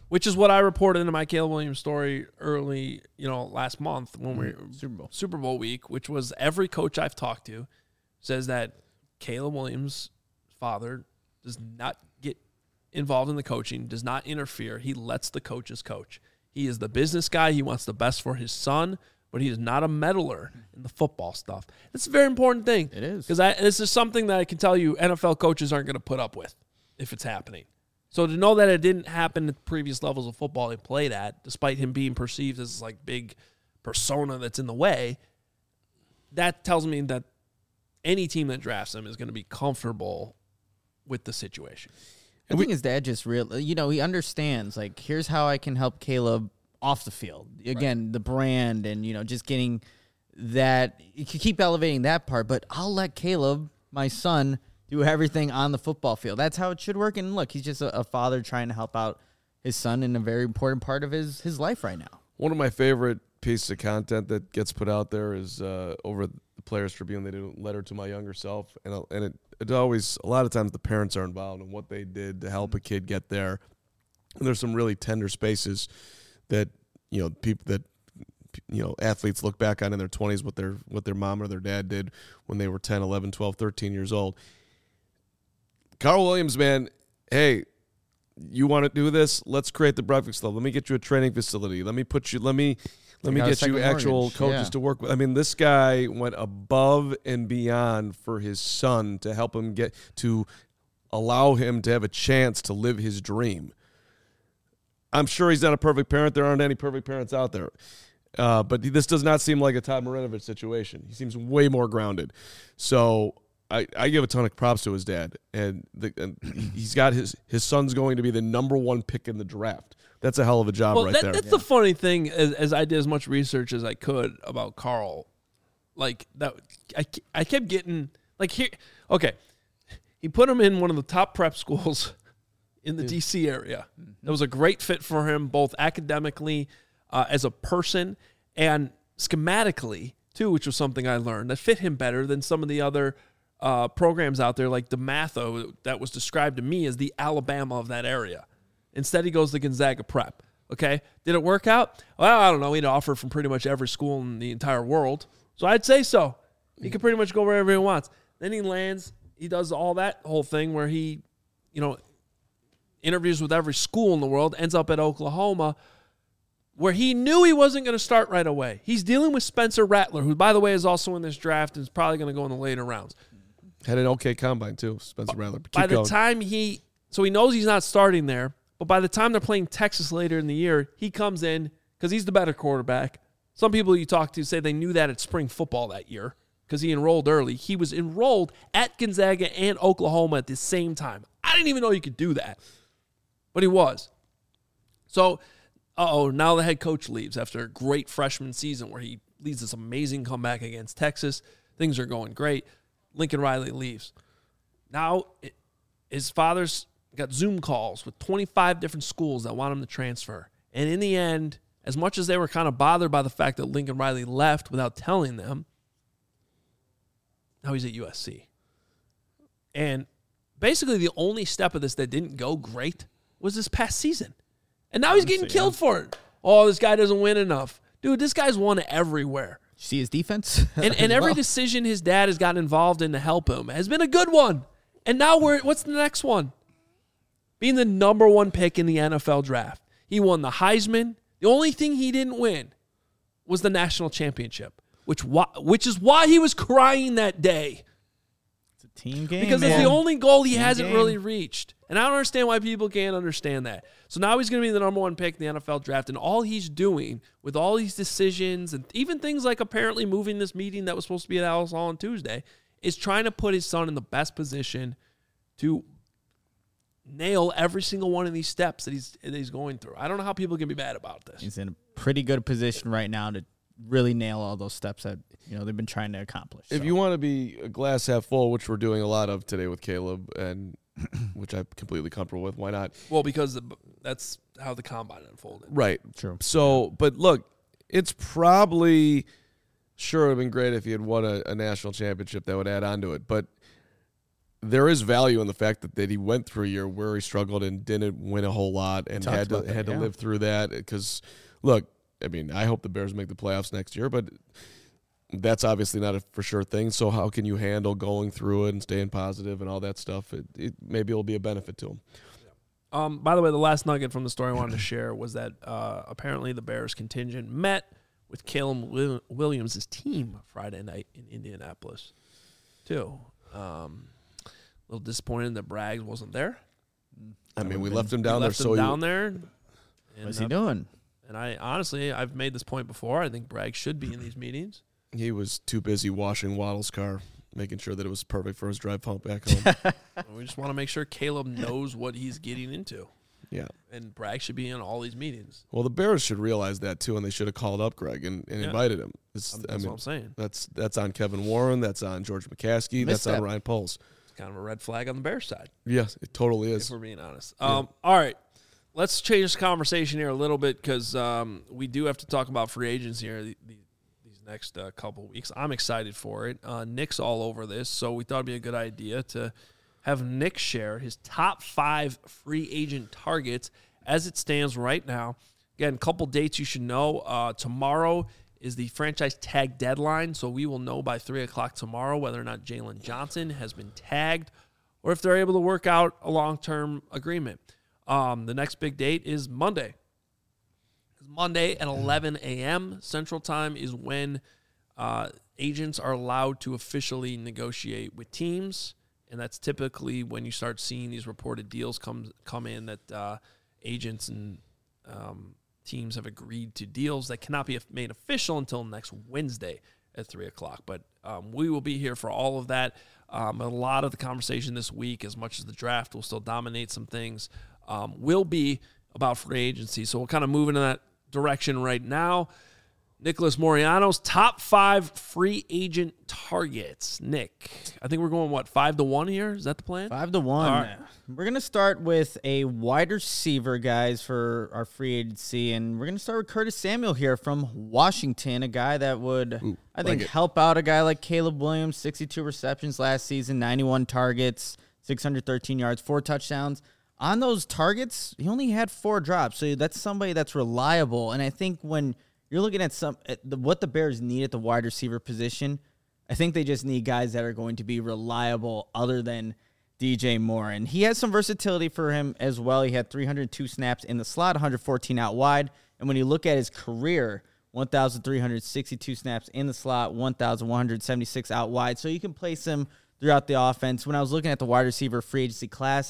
which is what I reported in my Caleb Williams story early, last month when we Super Bowl week, which was every coach I've talked to says that Caleb Williams' father does not get involved in the coaching, does not interfere. He lets the coaches coach. He is the business guy. He wants the best for his son, but he is not a meddler in the football stuff. It's a very important thing. It is. Because this is something that I can tell you NFL coaches aren't going to put up with if it's happening. So to know that it didn't happen at previous levels of football he played at, despite him being perceived as like big persona that's in the way, that tells me that any team that drafts him is going to be comfortable with the situation. I think his dad just he understands, like, here's how I can help Caleb off the field. Again, the brand and, just getting that. You can keep elevating that part, but I'll let Caleb, my son, do everything on the football field. That's how it should work. And look, he's just a father trying to help out his son in a very important part of his life right now. One of my favorite pieces of content that gets put out there is over the Players Tribune. They did a letter to my younger self, and it always, a lot of times the parents are involved in what they did to help a kid get there. And there's some really tender spaces that people that athletes look back on in their 20s, what their mom or their dad did when they were 10, 11, 12, 13 years old. Carl Williams, man, hey, you want to do this? Let's create the Breakfast Club. Let me get you a training facility. Let me get you actual coaches to work with. I mean, this guy went above and beyond for his son to help him allow him to have a chance to live his dream. I'm sure he's not a perfect parent. There aren't any perfect parents out there. But this does not seem like a Todd Marinovich situation. He seems way more grounded. So I give a ton of props to his dad. And he's got his son's going to be the number one pick in the draft. That's a hell of a job there. That's the funny thing, as I did as much research as I could about Carl. Like, that, I kept getting, like, here, okay, he put him in one of the top prep schools in the D.C. area. That was a great fit for him, both academically, as a person, and schematically, too, which was something I learned, that fit him better than some of the other programs out there, like DeMatho, that was described to me as the Alabama of that area. Instead, he goes to Gonzaga Prep. Okay, did it work out? Well, I don't know. He'd offer from pretty much every school in the entire world, so I'd say so. He could pretty much go wherever he wants. Then he lands. He does all that whole thing where he, interviews with every school in the world. Ends up at Oklahoma, where he knew he wasn't going to start right away. He's dealing with Spencer Rattler, who, by the way, is also in this draft and is probably going to go in the later rounds. Had an okay combine too, Spencer Rattler. By the time he knows he's not starting there. But by the time they're playing Texas later in the year, he comes in because he's the better quarterback. Some people you talk to say they knew that at spring football that year because he enrolled early. He was enrolled at Gonzaga and Oklahoma at the same time. I didn't even know you could do that. But he was. So, now the head coach leaves after a great freshman season where he leads this amazing comeback against Texas. Things are going great. Lincoln Riley leaves. Now, his father's got Zoom calls with 25 different schools that want him to transfer. And in the end, as much as they were kind of bothered by the fact that Lincoln Riley left without telling them, now he's at USC. And basically the only step of this that didn't go great was this past season. And now he's getting killed for it. Oh, this guy doesn't win enough. Dude, this guy's won everywhere. See his defense? And every decision his dad has gotten involved in to help him has been a good one. And now what's the next one? Being the number one pick in the NFL draft. He won the Heisman. The only thing he didn't win was the national championship, which is why he was crying that day. It's a team game, because it's the only goal he hasn't really reached. And I don't understand why people can't understand that. So now he's going to be the number one pick in the NFL draft, and all he's doing with all these decisions and even things like apparently moving this meeting that was supposed to be at Alice Hall on Tuesday is trying to put his son in the best position to nail every single one of these steps that he's going through. I don't know how people can be mad about this. He's in a pretty good position right now to really nail all those steps that they've been trying to accomplish. If you want to be a glass half full, which we're doing a lot of today with Caleb, and which I'm completely comfortable with, why not? Well, because that's how the combine unfolded. Right. True. So, but look, it's probably sure it would have been great if he had won a national championship that would add on to it, but there is value in the fact that he went through a year where he struggled and didn't win a whole lot and had to live through that. Because, look, I mean, I hope the Bears make the playoffs next year, but that's obviously not a for sure thing. So how can you handle going through it and staying positive and all that stuff? Maybe it'll be a benefit to him. By the way, the last nugget from the story I wanted to share was that apparently the Bears contingent met with Caleb Williams' team Friday night in Indianapolis, too. A little disappointed that Braggs wasn't there. I mean, we left him down there. What's he doing? And I've made this point before. I think Bragg should be in these meetings. He was too busy washing Waddle's car, making sure that it was perfect for his drive home back home. We just want to make sure Caleb knows what he's getting into. Yeah. And Bragg should be in all these meetings. Well, the Bears should realize that, too, and they should have called up Greg and invited him. That's what I'm saying. That's on Kevin Warren. That's on George McCaskey. That's on Ryan Poles. It's kind of a red flag on the Bears side. Yes, it totally is. If we're being honest. All right. Let's change the conversation here a little bit because we do have to talk about free agents here these next couple of weeks. I'm excited for it. Nick's all over this, so we thought it'd be a good idea to have Nick share his top 5 free agent targets as it stands right now. Again, a couple dates you should know. Tomorrow is the franchise tag deadline, so we will know by 3 o'clock tomorrow whether or not Jalen Johnson has been tagged or if they're able to work out a long-term agreement. The next big date is Monday. Monday at 11 a.m. Central Time is when agents are allowed to officially negotiate with teams, and that's typically when you start seeing these reported deals come in that agents and teams have agreed to deals that cannot be made official until next Wednesday at 3 o'clock. But we will be here for all of that. A lot of the conversation this week, as much as the draft will still dominate some things, will be about free agency. So we'll kind of move into that direction right now. Nicholas Moreano's top 5 free agent targets. Nick, I think we're going, 5-1 here? Is that the plan? 5-1. Right. We're going to start with a wide receiver, guys, for our free agency. And we're going to start with Curtis Samuel here from Washington, a guy that would, I think, help out a guy like Caleb Williams, 62 receptions last season, 91 targets, 613 yards, 4 touchdowns. On those targets, he only had 4 drops. So that's somebody that's reliable. And I think when you're looking at what the Bears need at the wide receiver position, I think they just need guys that are going to be reliable other than DJ Moore. And he has some versatility for him as well. He had 302 snaps in the slot, 114 out wide. And when you look at his career, 1,362 snaps in the slot, 1,176 out wide. So you can place him throughout the offense. When I was looking at the wide receiver free agency class,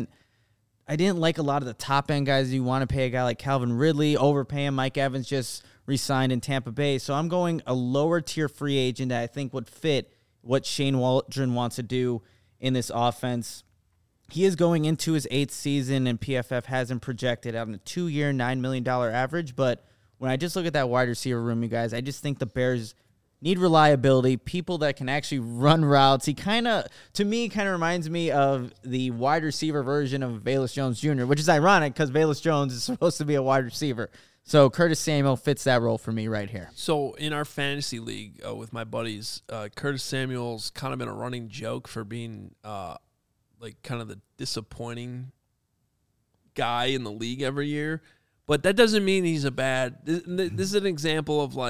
I didn't like a lot of the top-end guys. You want to pay a guy like Calvin Ridley, overpay him. Mike Evans just re-signed in Tampa Bay. So I'm going a lower-tier free agent that I think would fit what Shane Waldron wants to do in this offense. He is going into his 8th season, and PFF has him projected out on a 2-year, $9 million average. But when I just look at that wide receiver room, you guys, I just think the Bears need reliability, people that can actually run routes. He to me, reminds me of the wide receiver version of Velus Jones Jr., which is ironic because Velus Jones is supposed to be a wide receiver. So Curtis Samuel fits that role for me right here. So in our fantasy league with my buddies, Curtis Samuel's kind of been a running joke for being kind of the disappointing guy in the league every year. But that doesn't mean he's a bad. This is an example of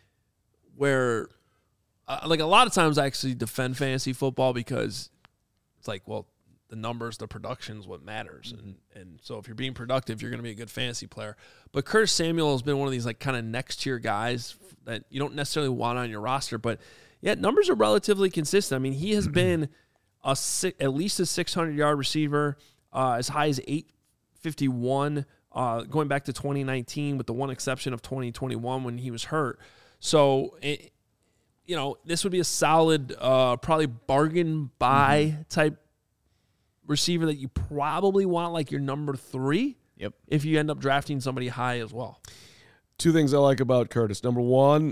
where a lot of times I actually defend fantasy football because it's the numbers, the production is what matters. And so if you're being productive, you're going to be a good fantasy player. But Curtis Samuel has been one of these kind of next tier guys that you don't necessarily want on your roster, but yet numbers are relatively consistent. I mean, he has been at least a 600-yard receiver, as high as 851, going back to 2019 with the one exception of 2021 when he was hurt. So, this would be a solid, probably bargain buy type receiver that you probably want your number 3. Yep. If you end up drafting somebody high as well. 2 things I like about Curtis. Number 1,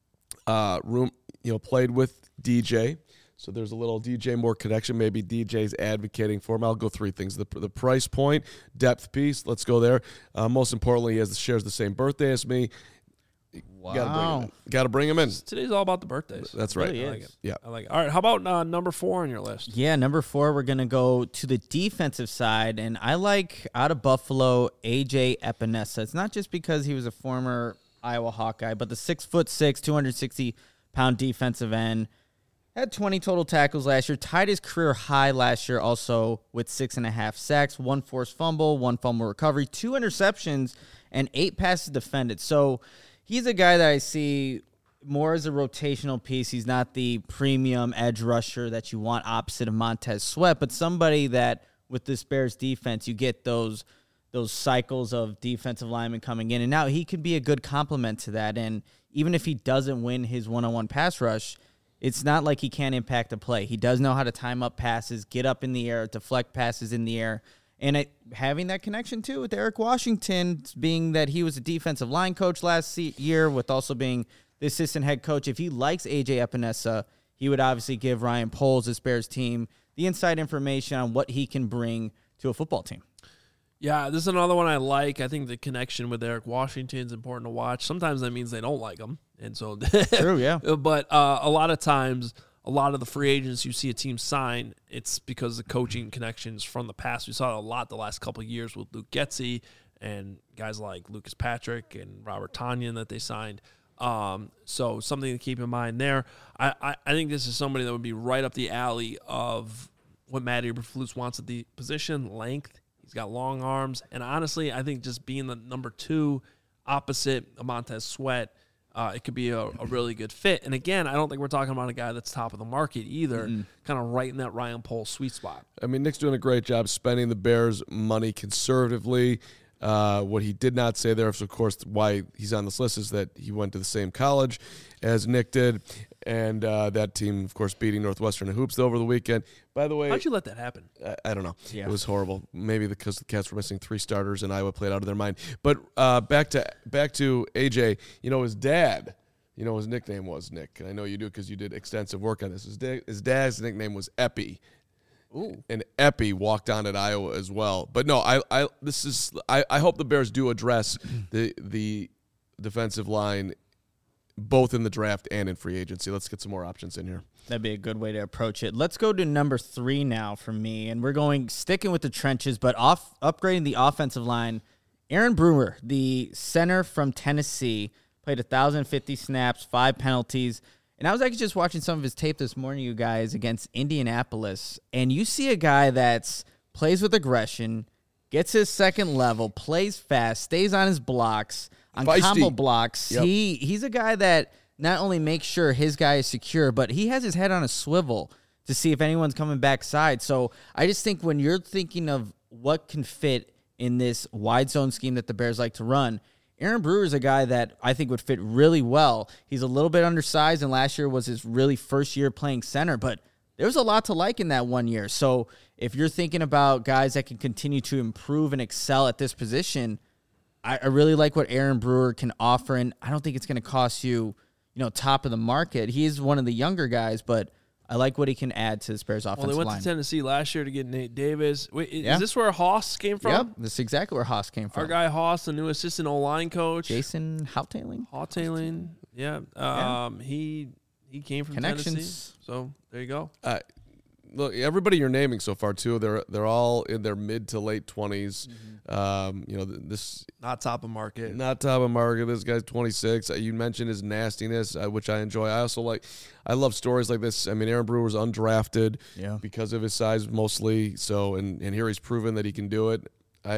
played with DJ. So there's a little DJ Moore connection. Maybe DJ's advocating for him. I'll go 3 things. The price point, depth piece. Let's go there. Most importantly, he shares the same birthday as me. Wow. Got to bring him in. Today's all about the birthdays. That's right. Really I like is. it. Yeah. I like it. All right, how about number 4 on your list? Yeah, number 4, we're going to go to the defensive side, and I like out of Buffalo, A.J. Epinesa. It's not just because he was a former Iowa Hawkeye, but the 6'6", 260-pound defensive end. Had 20 total tackles last year, tied his career high last year also with 6.5 sacks, 1 forced fumble, 1 fumble recovery, 2 interceptions, and 8 passes defended. So he's a guy that I see more as a rotational piece. He's not the premium edge rusher that you want opposite of Montez Sweat, but somebody that with this Bears defense, you get those cycles of defensive linemen coming in. And now he could be a good complement to that. And even if he doesn't win his one-on-one pass rush, it's not like he can't impact a play. He does know how to time up passes, get up in the air, deflect passes in the air. And having that connection, too, with Eric Washington, being that he was a defensive line coach last year, with also being the assistant head coach. If he likes A.J. Epinesa, he would obviously give Ryan Poles, this Bears team, the inside information on what he can bring to a football team. Yeah, this is another one I like. I think the connection with Eric Washington is important to watch. Sometimes that means they don't like him. And so, True, yeah. But a lot of times, a lot of the free agents you see a team sign, it's because the coaching connections from the past. We saw it a lot the last couple of years with Luke Getsy and guys like Lucas Patrick and Robert Tonyan that they signed. So something to keep in mind there. I think this is somebody that would be right up the alley of what Matt Eberflus wants at the position, length. He's got long arms. And honestly, I think just being the number 2 opposite of Montez Sweat, it could be a really good fit. And again, I don't think we're talking about a guy that's top of the market either, kind of right in that Ryan Poles sweet spot. I mean, Nick's doing a great job spending the Bears' money conservatively. What he did not say there, of course, why he's on this list is that he went to the same college as Nick did, and that team, of course, beating Northwestern in hoops over the weekend. By the way, How'd you let that happen? I don't know. Yeah. It was horrible. Maybe because the Cats were missing 3 starters and Iowa played out of their mind. But back to AJ. His dad. His nickname was Nick, and I know you do because you did extensive work on this. His dad's nickname was Epi. Ooh. And Epi walked on at Iowa as well. But no, I hope the Bears do address the defensive line both in the draft and in free agency. Let's get some more options in here. That'd be a good way to approach it. Let's go to number 3 now for me, and we're sticking with the trenches, but upgrading the offensive line. Aaron Brewer, the center from Tennessee, played 1,050 snaps, 5 penalties. And I was actually just watching some of his tape this morning, you guys, against Indianapolis. And you see a guy that plays with aggression, gets his second level, plays fast, stays on his blocks, on Feisty. combo blocks. Yep. He's a guy that not only makes sure his guy is secure, but he has his head on a swivel to see if anyone's coming backside. So I just think when you're thinking of what can fit in this wide zone scheme that the Bears like to run, Aaron Brewer is a guy that I think would fit really well. He's a little bit undersized, and last year was his really first year playing center, but there was a lot to like in that 1 year. So if you're thinking about guys that can continue to improve and excel at this position, I really like what Aaron Brewer can offer, and I don't think it's going to cost you, top of the market. He is one of the younger guys, but I like what he can add to this Bears offensive line. Well, they went to Tennessee last year to get Nate Davis. Wait, Yeah. is this where Haas came from? Yep, this is exactly where Haas came from. Our guy Haas, the new assistant O-line coach. Jason Hautailing. Hautailing. Yeah. He came from Connections. Tennessee. So there you go. Look, everybody you're naming so far too, they're all in their mid to late 20s. This Not top of market. not top of market. This guy's 26. You mentioned his nastiness, which I enjoy. I love stories like this. I mean, Aaron Brewer's undrafted because of his size mostly. So, and here he's proven that he can do it.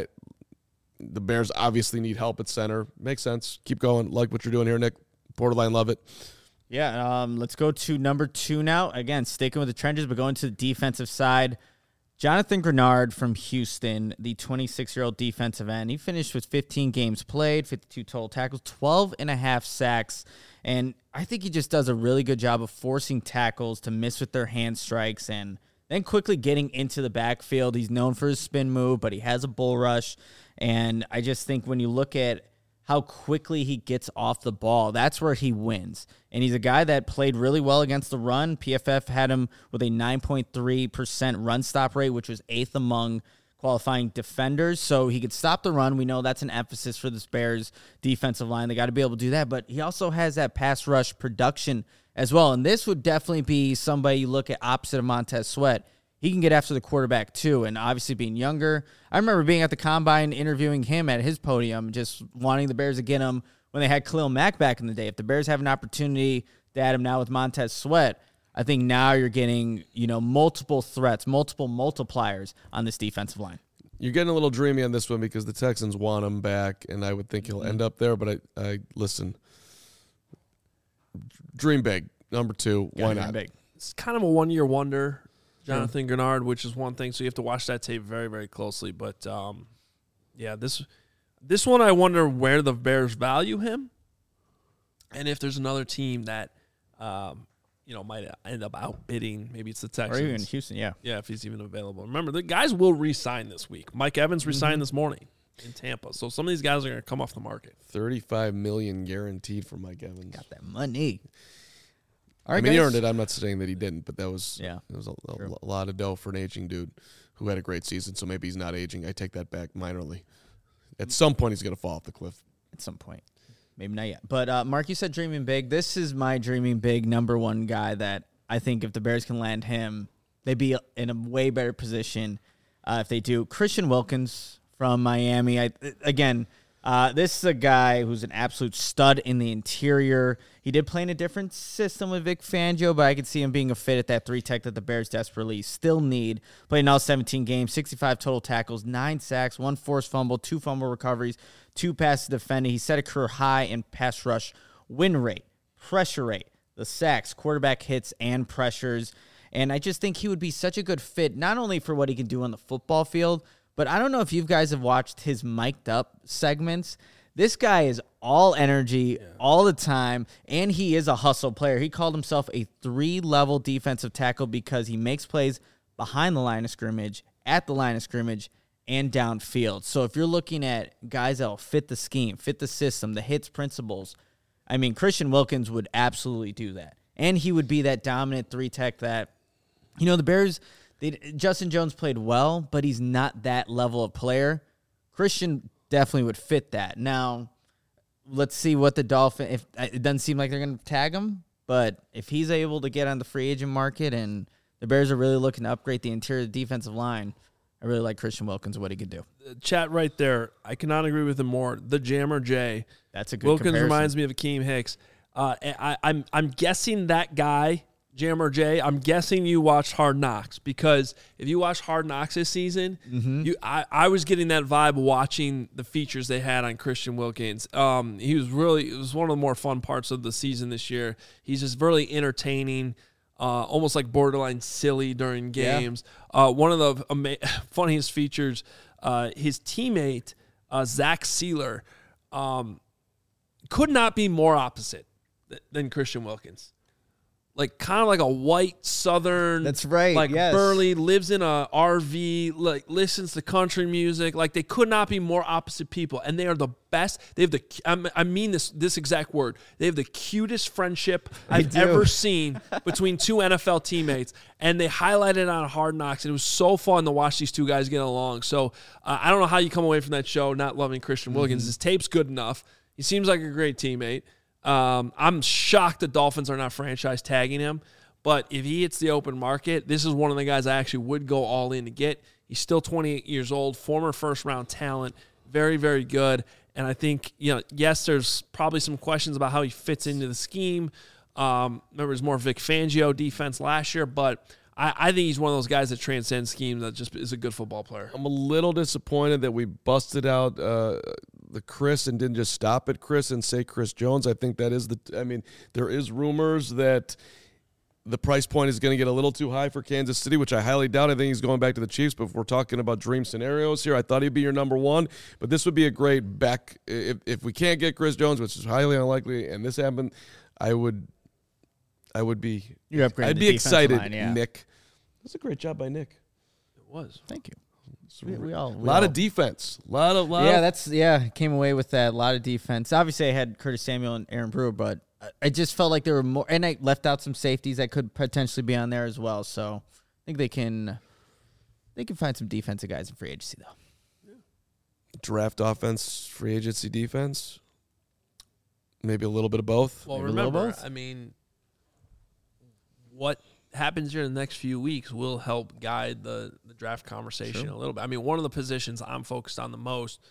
The Bears obviously need help at center. Makes sense. Keep going. Like what you're doing here, Nick. Borderline love it. Yeah, let's go to number 2 now. Again, sticking with the trenches, but going to the defensive side. Jonathan Grenard from Houston, the 26-year-old defensive end. He finished with 15 games played, 52 total tackles, 12.5 sacks. And I think he just does a really good job of forcing tackles to miss with their hand strikes and then quickly getting into the backfield. He's known for his spin move, but he has a bull rush. And I just think when you look at how quickly he gets off the ball, that's where he wins. And he's a guy that played really well against the run. PFF had him with a 9.3% run stop rate, which was 8th among qualifying defenders, so he could stop the run. We know that's an emphasis for this Bears defensive line. They got to be able to do that, but he also has that pass rush production as well, and this would definitely be somebody you look at opposite of Montez Sweat. He can get after the quarterback too, and obviously being younger. I remember being at the Combine, interviewing him at his podium, just wanting the Bears to get him when they had Khalil Mack back in the day. If the Bears have an opportunity to add him now with Montez Sweat, I think now you're getting, multiple threats, multiple multipliers on this defensive line. You're getting a little dreamy on this one because the Texans want him back, and I would think he'll end up there. But I listen, dream big. Number 2, why not? Big. It's kind of a one-year wonder, Jonathan Grenard, which is one thing. So you have to watch that tape very, very closely. But, this one I wonder where the Bears value him and if there's another team that might end up outbidding. Maybe it's the Texans. Or even Houston, yeah. Yeah, if he's even available. Remember, the guys will re-sign this week. Mike Evans re-signed this morning in Tampa. So some of these guys are going to come off the market. $35 million guaranteed for Mike Evans. Got that money. All right, he guys. earned it. I'm not saying that he didn't, but that was a lot of dough for an aging dude who had a great season. So maybe he's not aging. I take that back minorly. At some point, he's going to fall off the cliff. At some point. Maybe not yet. But, Mark, you said dreaming big. This is my dreaming big number one guy that I think if the Bears can land him, they'd be in a way better position if they do. Christian Wilkins from Miami. This is a guy who's an absolute stud in the interior. He did play in a different system with Vic Fangio, but I could see him being a fit at that 3-tech that the Bears desperately still need. Played in all 17 games, 65 total tackles, 9 sacks, 1 forced fumble, 2 fumble recoveries, 2 passes defended. He set a career high in pass rush win rate, pressure rate, the sacks, quarterback hits, and pressures. And I just think he would be such a good fit, not only for what he can do on the football field, but I don't know if you guys have watched his mic'd up segments. This guy is all energy all the time, and he is a hustle player. He called himself a 3-level defensive tackle because he makes plays behind the line of scrimmage, at the line of scrimmage, and downfield. So if you're looking at guys that will fit the scheme, fit the system, the hits principles, I mean, Christian Wilkins would absolutely do that. And he would be that dominant 3-tech that, the Bears, Justin Jones played well, but he's not that level of player. Christian definitely would fit that. Now, let's see what the Dolphins, it doesn't seem like they're going to tag him, but if he's able to get on the free agent market and the Bears are really looking to upgrade the interior defensive line, I really like Christian Wilkins, what he could do. Chat right there. I cannot agree with him more. The Jammer J. That's a good Wilkins comparison. reminds me of Akeem Hicks. I'm guessing that guy, Jammer J, I'm guessing you watched Hard Knocks, because if you watched Hard Knocks this season, I was getting that vibe watching the features they had on Christian Wilkins. It was one of the more fun parts of the season this year. He's just really entertaining, almost like borderline silly during games. One of the funniest features, his teammate, Zach Sealer, could not be more opposite than Christian Wilkins. Like kind of like a white Southern. That's right. Like yes. burly, lives in a RV, like listens to country music. Like they could not be more opposite people, and they are the best. They have I mean this exact word. They have the cutest friendship I've ever seen between two NFL teammates, and they highlighted it on Hard Knocks. And it was so fun to watch these two guys get along. So I don't know how you come away from that show not loving Christian Wilkins. His tape's good enough. He seems like a great teammate. I'm shocked the Dolphins are not franchise tagging him, but if he hits the open market, this is one of the guys I actually would go all in to get. He's still 28 years old, former first-round talent, very, very good. And I think, yes, there's probably some questions about how he fits into the scheme. Remember, it was more Vic Fangio defense last year, but I think he's one of those guys that transcends schemes, that just is a good football player. I'm a little disappointed that we busted out the Chris and didn't just stop at Chris and say Chris Jones. I think that is there is rumors that the price point is going to get a little too high for Kansas City, which I highly doubt. I think he's going back to the Chiefs, but if we're talking about dream scenarios here, I thought he'd be your number one, but this would be a great back. If we can't get Chris Jones, which is highly unlikely, and this happened, I'd be excited, line, yeah. Nick. That's a great job by Nick. It was. Thank you. A lot of defense. Came away with that. A lot of defense. Obviously, I had Curtis Samuel and Aaron Brewer, but I just felt like there were more, and I left out some safeties that could potentially be on there as well. So I think they can They can find some defensive guys in free agency, though. Draft offense, free agency defense. Maybe a little bit of both. Well, Maybe a little remember, both. I mean, what happens here in the next few weeks will help guide the draft conversation a little bit. I mean, one of the positions I'm focused on the most,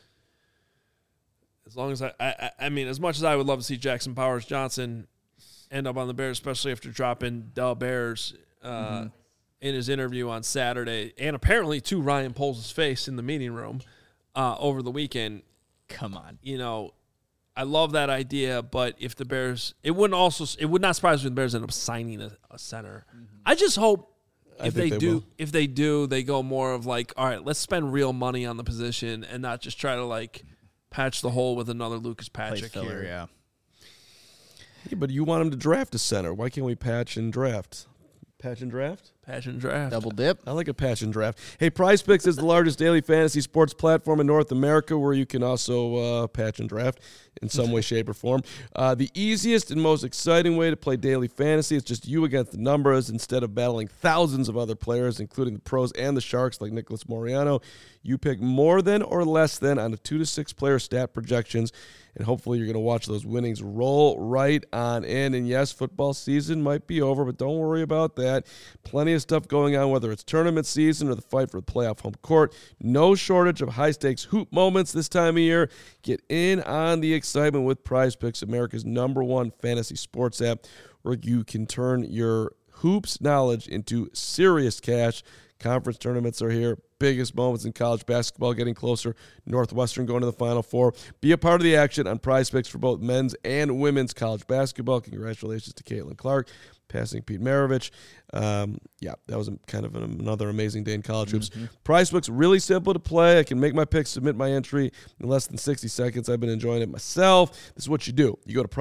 as long as I mean, as much as I would love to see Jackson Powers Johnson end up on the Bears, especially after dropping Del Bears in his interview on Saturday, and apparently to Ryan Poles' face in the meeting room over the weekend. Come on. You know, I love that idea, but if the Bears, it would not surprise me if the Bears end up signing a center. I just hope if they do, they go more of like, all right, let's spend real money on the position and not just try to like patch the hole with another Lucas Patrick Filler, here. yeah. Yeah, but you want him to draft a center. Why can't we patch and draft? Patch and draft? Patch and draft. Double dip. I like a patch and draft. Hey, Prize Picks is the largest daily fantasy sports platform in North America where you can also patch and draft in some way, shape, or form. The easiest and most exciting way to play daily fantasy is just you against the numbers instead of battling thousands of other players, including the pros and the sharks like Nicholas Moriano. You pick more than or less than on the 2 to 6 player stat projections, and hopefully you're going to watch those winnings roll right on in. And yes, football season might be over, but don't worry about that. Plenty of stuff going on, whether it's tournament season or the fight for the playoff home court. No shortage of high-stakes hoop moments this time of year. Get in on the excitement with Prize Picks, America's #1 fantasy sports app, where you can turn your hoops knowledge into serious cash. Conference tournaments are here. Biggest moments in college basketball getting closer. Northwestern going to the Final Four. Be a part of the action on Prize Picks for both men's and women's college basketball. Congratulations to Caitlin Clark, passing Pete Maravich. Yeah, that was kind of another amazing day in college hoops. Prize Picks, really simple to play. I can make my picks, submit my entry in less than 60 seconds. I've been enjoying it myself. This is what you do. You go to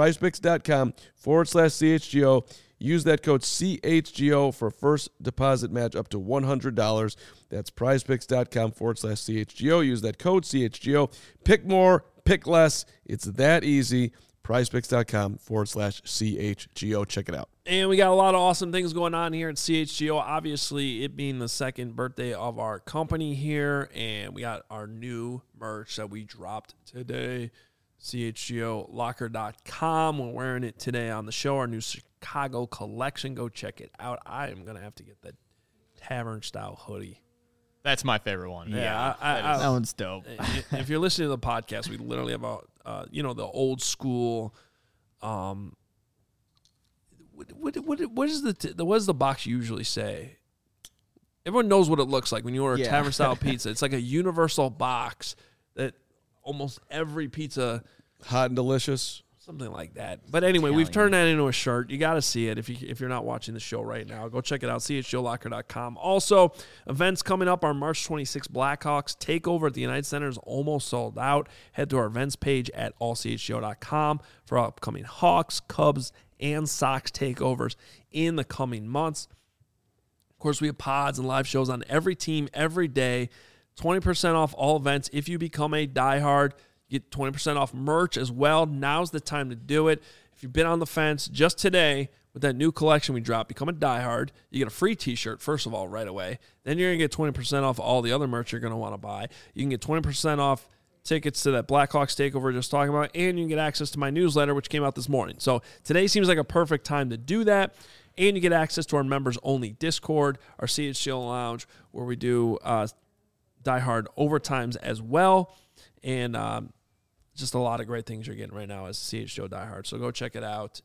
prizepicks.com/CHGO. Use that code CHGO for a first deposit match up to $100. That's prizepicks.com/CHGO. Use that code CHGO. Pick more, pick less. It's that easy. prizepicks.com/CHGO. Check it out. And we got a lot of awesome things going on here at CHGO. Obviously, it being the second birthday of our company here, and we got our new merch that we dropped today. CHGOlocker.com. We're wearing it today on the show, our new Chicago collection. Go check it out. I am going to have to get the tavern-style hoodie. That's my favorite one. Yeah, That one's dope. If you're listening to the podcast, we literally have the old school. What does the box usually say? Everyone knows what it looks like when you order tavern style pizza. It's like a universal box that almost every pizza, Hot and delicious. something like that. But anyway, we've turned that into a shirt. You got to see it if you're not watching the show right now. Go check it out, chgolocker.com. Also, events coming up. Our March 26th Blackhawks takeover at the United Center is almost sold out. Head to our events page at allchgo.com for upcoming Hawks, Cubs, and Sox takeovers in the coming months. Of course, we have pods and live shows on every team every day. 20% off all events. If you become a diehard, you get 20% off merch as well. Now's the time to do it. If you've been on the fence, just today with that new collection we dropped, become a diehard. You get a free t-shirt, first of all, right away. Then you're going to get 20% off all the other merch you're going to want to buy. You can get 20% off tickets to that Blackhawks takeover just talking about, and you can get access to my newsletter, which came out this morning. So today seems like a perfect time to do that. And you get access to our members-only Discord, our CHGO Lounge, where we do diehard overtimes as well. And just a lot of great things you're getting right now as CHGO diehard. So go check it out,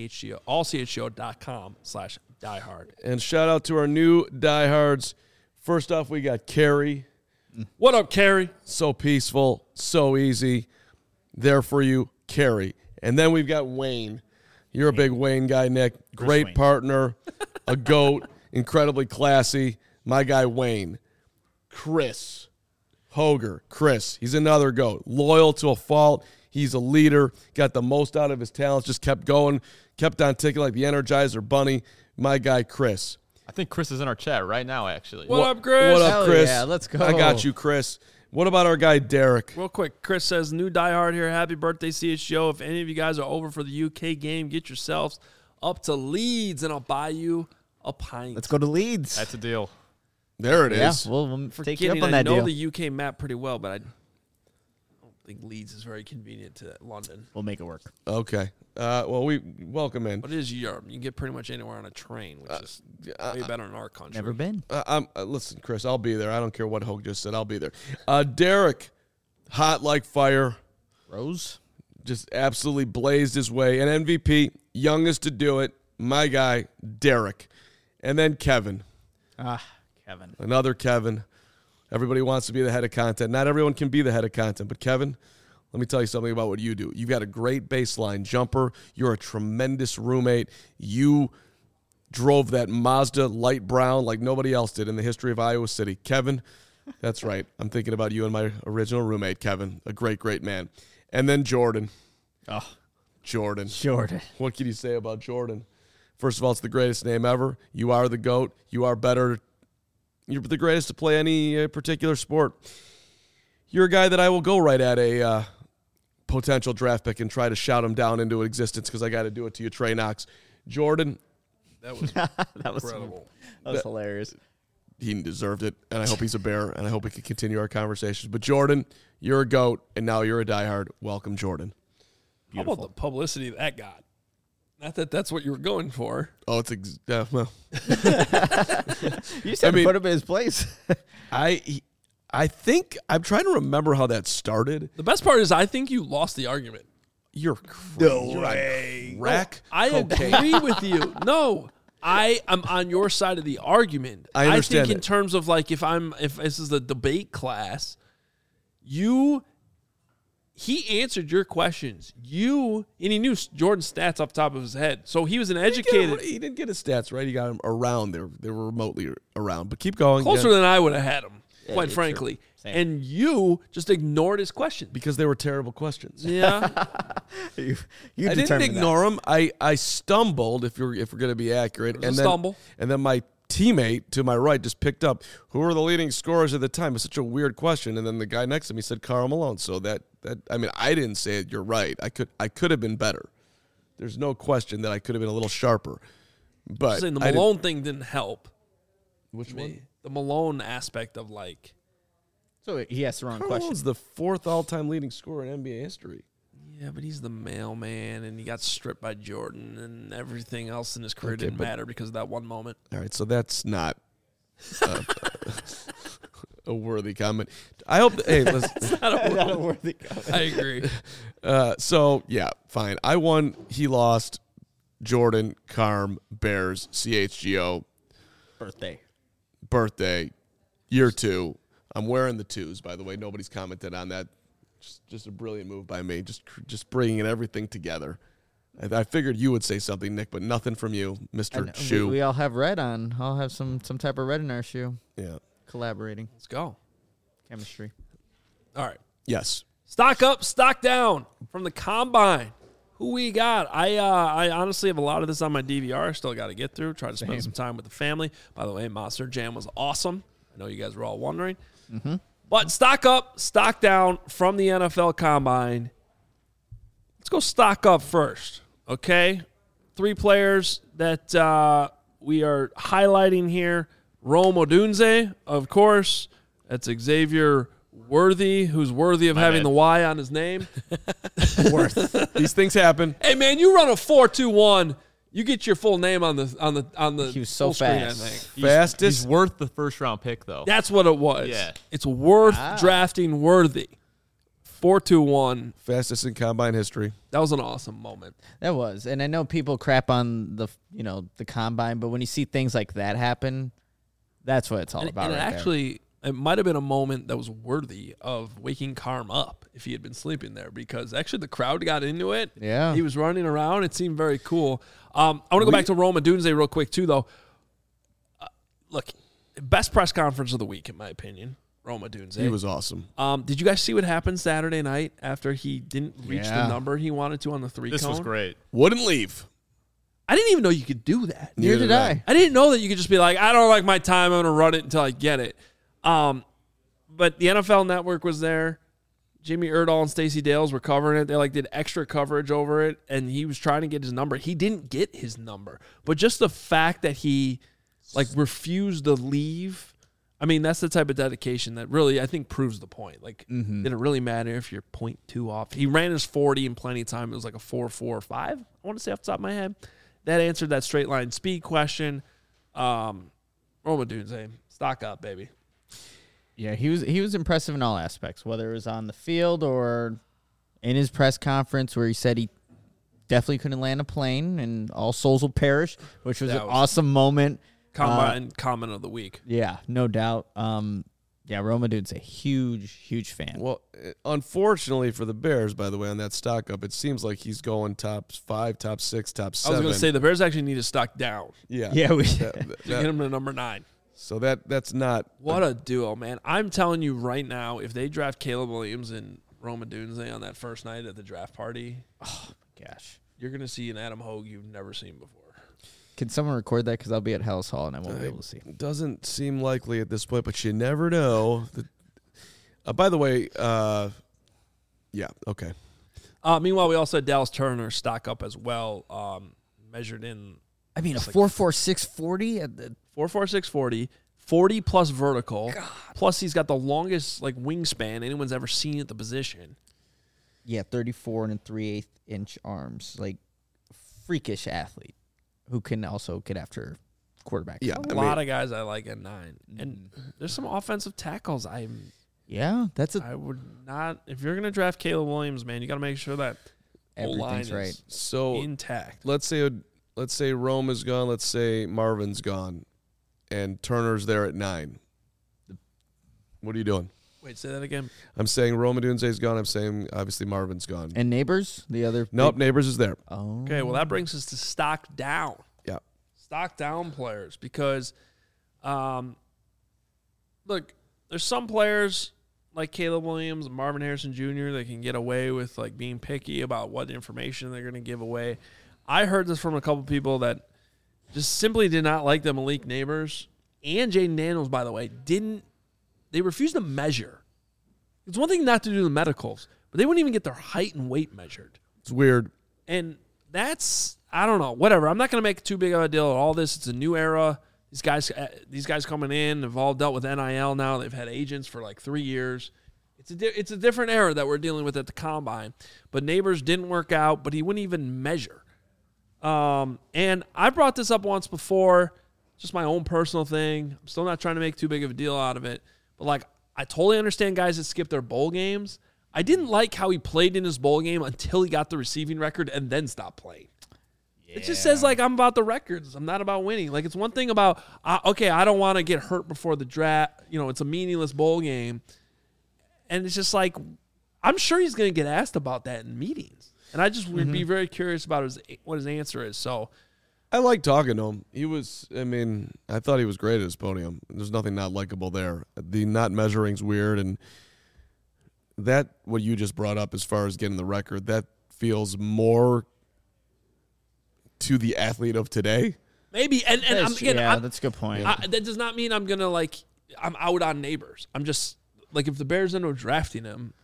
allchgo.com/diehard. And shout out to our new diehards. First off, we got Carrie. What up, Carrie? So peaceful, so easy. There for you, Carrie. And then we've got Wayne. You're a big Wayne guy, Nick. Great Wayne. partner, a GOAT, incredibly classy. My guy, Wayne. Chris Hoger. Chris, he's another GOAT. Loyal to a fault. He's a leader. Got the most out of his talents. Just kept going. Kept on ticking like the Energizer Bunny. My guy, Chris. I think Chris is in our chat right now, actually. What up, Chris? What up, Hell Chris? yeah, let's go. I got you, Chris. What about our guy, Derek? Real quick, Chris says, new diehard here. Happy birthday, CHGO. If any of you guys are over for the UK game, get yourselves up to Leeds, and I'll buy you a pint. Let's go to Leeds. That's a deal. There it Yeah, is. we'll take you up Forgetting, on I that know deal. the UK map pretty well, but I don't think Leeds is very convenient to London. We'll make it work. Okay. Well, we welcome in. But it is Europe. You can get pretty much anywhere on a train, which is way better in our country. Never been. Listen, Chris, I'll be there. I don't care what Hogue just said. I'll be there. Derek, hot like fire, Rose? just absolutely blazed his way. An MVP, youngest to do it. My guy, Derek. And then Kevin. Kevin. Another Kevin. Everybody wants to be the head of content. Not everyone can be the head of content, but Kevin, let me tell you something about what you do. You've got a great baseline jumper. You're a tremendous roommate. You drove that Mazda light brown like nobody else did in the history of Iowa City. Kevin, that's right. I'm thinking about you and my original roommate, Kevin. A great, great man. And then Jordan. Oh, Jordan. Jordan. What can you say about Jordan? First of all, it's the greatest name ever. You are the GOAT. You are better. You're the greatest to play any particular sport. You're a guy that I will go right at a potential draft pick and try to shout him down into existence because I got to do it to you, Trey Knox. Jordan, That was That was incredible. That was hilarious. he deserved it, and I hope he's a Bear, and I hope we can continue our conversations. But Jordan, you're a GOAT, and now you're a diehard. Welcome, Jordan. How about the publicity that got? Not that that's what you were going for. Oh, it's well, You just had to put him in his place. I think I'm trying to remember how that started. The best part is I think you lost the argument. You're crazy. You're on crack. I cocaine. agree with you. No, I am on your side of the argument. I understand think in that. terms of like if this is a debate class, he answered your questions. And he knew Jordan's stats off the top of his head. So he was an educated. He didn't get his stats right. He got them around. They were remotely around. But keep going. Closer Yeah. than I would have had him, quite true. frankly. Same. And you just ignored his questions. Because they were terrible questions. Yeah. you I didn't ignore them. I stumbled, if we're going to be accurate. It was a stumble. And then my teammate to my right just picked up, who were the leading scorers at the time? It's such a weird question. And then the guy next to me said Karl Malone. So that I mean, I didn't say it. You're right. I could have been better. There's no question that I could have been a little sharper. But Saying the I didn't- Malone thing didn't help. Which me. one? The Malone aspect of like, So he asked the wrong Karl question. Malone's the fourth all-time leading scorer in NBA history. yeah, but he's the mailman and he got stripped by Jordan and everything else in his career Okay, didn't but- matter because of that one moment. All right, so that's not a worthy comment. I hope. Hey, listen. Not a worthy comment. I agree. So yeah, fine. I won. He lost. Jordan, Carm, Bears, CHGO, birthday, year 2. I'm wearing the 2s, by the way. Nobody's commented on that. Just a brilliant move by me. Just bringing everything together. I figured you would say something, Nick, but nothing from you, Mr. And Shoe. we all have red on. I'll have some type of red in our shoe. Yeah. Collaborating. Let's go. Chemistry. All right. Yes. Stock up, stock down from the combine. Who we got? I honestly have a lot of this on my DVR. I still got to get through. Try to spend some time with the family. By the way, Monster Jam was awesome. I know you guys were all wondering. Mm-hmm. But stock up, stock down from the NFL Combine. Let's go stock up first, okay? 3 players that we are highlighting here. Rome Odunze, of course. That's Xavier Worthy, who's worthy of having bad. the Y on his name. These things happen. Hey man, you run a 4.21. You get your full name on the. He was so full screen, fast. I think. Fastest. He's worth the first round pick, though. That's what it was. Yeah. It's worth drafting worthy. 4.21. Fastest in combine history. That was an awesome moment. That was. And I know people crap on the combine, but when you see things like that happen, that's what it's all about. And it right there. actually, it might have been a moment that was worthy of waking Carm up if he had been sleeping there, because actually the crowd got into it. Yeah. He was running around. It seemed very cool. I want to go back to Rome Odunze real quick too, though. Look, best press conference of the week, in my opinion. Rome Odunze. He was awesome. Did you guys see what happened Saturday night after he didn't reach the Yeah. number he wanted to on the 3 This cone? was great. Wouldn't leave. I didn't even know you could do that. Neither did I. I didn't know that you could just be like, I don't like my time. I'm going to run it until I get it. But the NFL Network was there. Jimmy Erdahl and Stacey Dales were covering it. They did extra coverage over it, and he was trying to get his number. He didn't get his number, but just the fact that he refused to leave I mean, that's the type of dedication that really, I think, proves the point. Like, did it really matter if you're 0.2 off? He ran his 40 in plenty of time. It was like a 4.45, I want to say off the top of my head. That answered that straight line speed question. Roma Odunze, stock up, baby. Yeah, he was impressive in all aspects, whether it was on the field or in his press conference where he said he definitely couldn't land a plane and all souls will perish, which was an awesome moment. Comment of the week. Yeah, no doubt. Yeah, Roma Odunze, huge fan. Well, unfortunately for the Bears, by the way, on that stock up, it seems like he's going top 5, top 6, top 7. I was going to say the Bears actually need to stock down. Yeah. We to get him to number 9. So that's not what a duo, man. I'm telling you right now, if they draft Caleb Williams and Roma Odunze on that first night at the draft party, oh my gosh, you're going to see an Adam Hogue you've never seen before. Can someone record that? Because I'll be at Hellas Hall and I won't be able to see. Doesn't seem likely at this point, but you never know. By the way, yeah, okay. Meanwhile, we also had Dallas Turner stock up as well, measured in. I mean, a 4.46 40 at the 4.46 40, 40 plus vertical. God. Plus, he's got the longest wingspan anyone's ever seen at the position. Yeah, 34 and 3/8 inch arms, freakish athlete who can also get after quarterback. Yeah, a lot of guys I like at 9, and there's some offensive tackles. I would not. If you're gonna draft Caleb Williams, man, you got to make sure that everything's right. Is intact. Let's say Rome is gone. Let's say Marvin's gone, and Turner's there at 9. What are you doing? Wait, say that again. I'm saying Rome Odunze's gone. I'm saying obviously Marvin's gone. And Neighbors, the other. Nope, Neighbors is there. Oh. Okay, well that brings us to stock down. Yeah, stock down players because, look, there's some players like Caleb Williams and Marvin Harrison Jr. that can get away with being picky about what information they're going to give away. I heard this from a couple people that just simply did not like the Malik Neighbors and Jaden Daniels, by the way, they refused to measure. It's one thing not to do the medicals, but they wouldn't even get their height and weight measured. It's weird. And that's, I don't know, whatever. I'm not going to make too big of a deal of all this. It's a new era. These guys coming in have all dealt with NIL now. They've had agents for 3 years. It's a different era that we're dealing with at the Combine. But Neighbors didn't work out, but he wouldn't even measure. And I brought this up once before, just my own personal thing. I'm still not trying to make too big of a deal out of it. But, I totally understand guys that skip their bowl games. I didn't like how he played in his bowl game until he got the receiving record and then stopped playing. Yeah. It just says, I'm about the records. I'm not about winning. It's one thing about, I don't want to get hurt before the draft. It's a meaningless bowl game. And it's just I'm sure he's going to get asked about that in meetings. And I just would be very curious about what his answer is. So I like talking to him. I thought he was great at his podium. There's nothing not likable there. The not measuring's weird, and that what you just brought up as far as getting the record, that feels more to the athlete of today. Maybe, and that's a good point. That does not mean I'm gonna I'm out on Neighbors. I'm just if the Bears end up drafting him,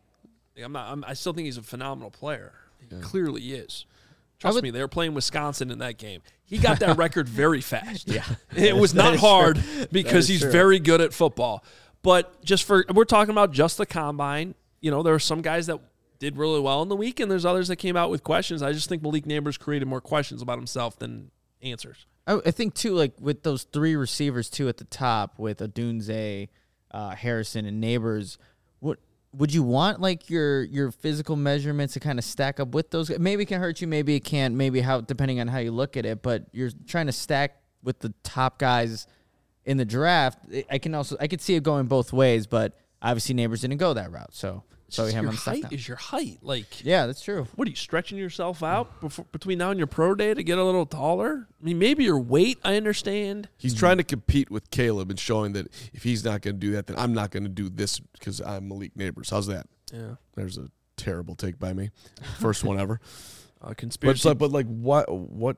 I still think he's a phenomenal player. He clearly is. Trust me, they were playing Wisconsin in that game. He got that record very fast. Yeah, it was not hard because he's very good at football. But we're talking about just the Combine. There are some guys that did really well in the week, and there's others that came out with questions. I just think Malik Neighbors created more questions about himself than answers. I think too, with those 3 receivers too at the top with Odunze, Harrison, and Neighbors. Would you want your physical measurements to kind of stack up with those? Maybe it can hurt you, maybe it can't, maybe depending on how you look at it, but you're trying to stack with the top guys in the draft. I could see it going both ways, but obviously Neighbors didn't go that route. So we have him height is your height. Yeah, that's true. What are you stretching yourself out between now and your pro day to get a little taller? Maybe your weight, I understand. He's trying to compete with Caleb and showing that if he's not going to do that, then I'm not going to do this because I'm Malik Neighbors. How's that? Yeah. There's a terrible take by me. First one ever. Conspiracy. But what?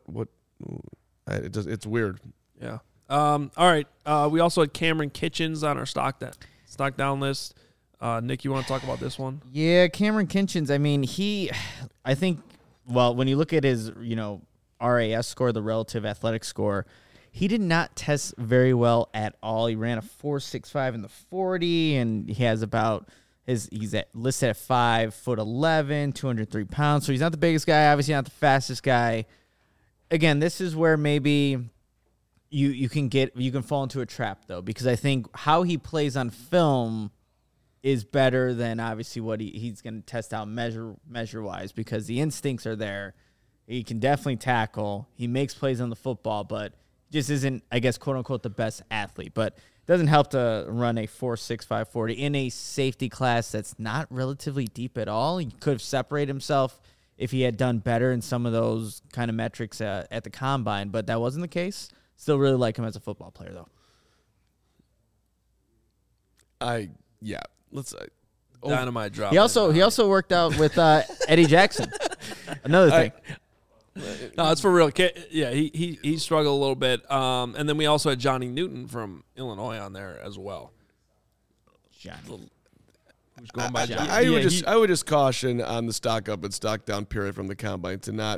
It's weird. Yeah. All right. We also had Cameron Kitchens on our stock down list. Nick, you want to talk about this one? Yeah, Cameron Kitchens. When you look at his, RAS score, the relative athletic score, he did not test very well at all. He ran a 4.65 in the 40, and he has about listed at 5'11", 203 pounds. So he's not the biggest guy, obviously not the fastest guy. Again, this is where maybe you can fall into a trap though, because I think how he plays on film is better than obviously what he's going to test out measure wise, because the instincts are there. He can definitely tackle. He makes plays on the football, but just isn't, I guess, quote unquote, the best athlete. But it doesn't help to run a 4.65 40 in a safety class that's not relatively deep at all. He could have separated himself if he had done better in some of those kind of metrics at the combine, but that wasn't the case. Still really like him as a football player, though. Let's Dynamite drop. He also worked out with Eddie Jackson. Another thing. No, it's for real. Yeah, he struggled a little bit. And then we also had Johnny Newton from Illinois on there as well. Johnny. Who's going by Johnny? I would just caution on the stock up and stock down period from the combine to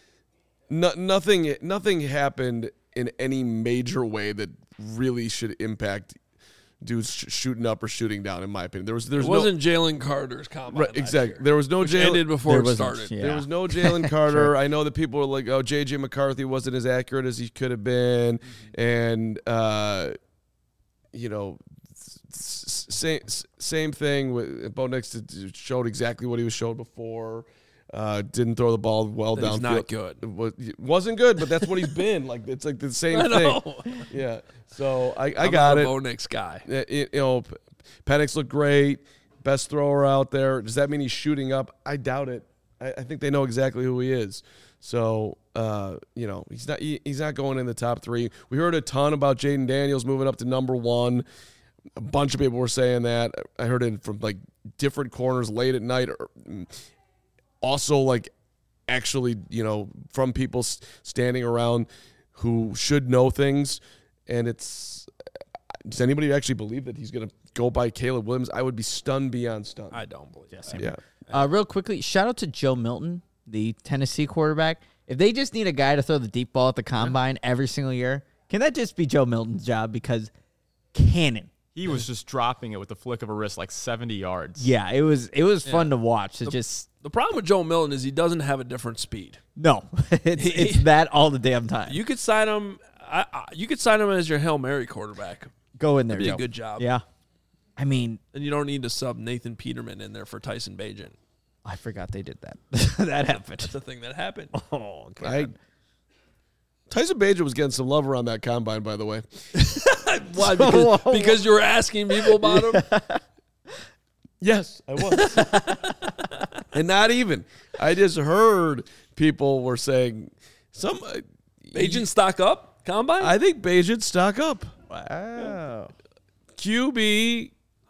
nothing happened in any major way that really should impact dudes shooting up or shooting down. In my opinion, it wasn't Jalen Carter's combine. Right, exactly. There was no Jalen. Ended before it started. Yeah. There was no Jalen Carter. Sure. I know that people were like, "Oh, JJ McCarthy wasn't as accurate as he could have been," and same thing with Bo Nix showed exactly what he was showed before. Didn't throw the ball well downfield. Not good. Wasn't good, but that's what he's been. Like it's like the same thing. Yeah. So I I'm got not it. A Bo Nix guy. Penix looked great. Best thrower out there. Does that mean he's shooting up? I doubt it. I think they know exactly who he is. So he's not going in the top 3. We heard a ton about Jaden Daniels moving up to number 1. A bunch of people were saying that. I heard it from like different corners late at night. Also, like, actually, from people standing around who should know things. And does anybody actually believe that he's going to go by Caleb Williams? I would be stunned beyond stunned. I don't believe that. Yeah. Real quickly, shout out to Joe Milton, the Tennessee quarterback. If they just need a guy to throw the deep ball at the combine every single year, can that just be Joe Milton's job? Because cannon. He was just dropping it with the flick of a wrist like 70 yards. Yeah, it was fun to watch. The problem with Joe Milton is he doesn't have a different speed. No, it's that all the damn time. You could sign him. You could sign him as your Hail Mary quarterback. Go in there, That'd be Joe. a good job. Yeah, I mean, and you don't need to sub Nathan Peterman in there for Tyson Bagent. I forgot they did that. That happened. That's the thing that happened. Oh, God. Tyson Bagent was getting some love around that combine, by the way. Why? Because you were asking people about him? Yes, I was. And not even. I just heard people were saying some Bagent stock up combine? I think Bagent stock up. Wow. QB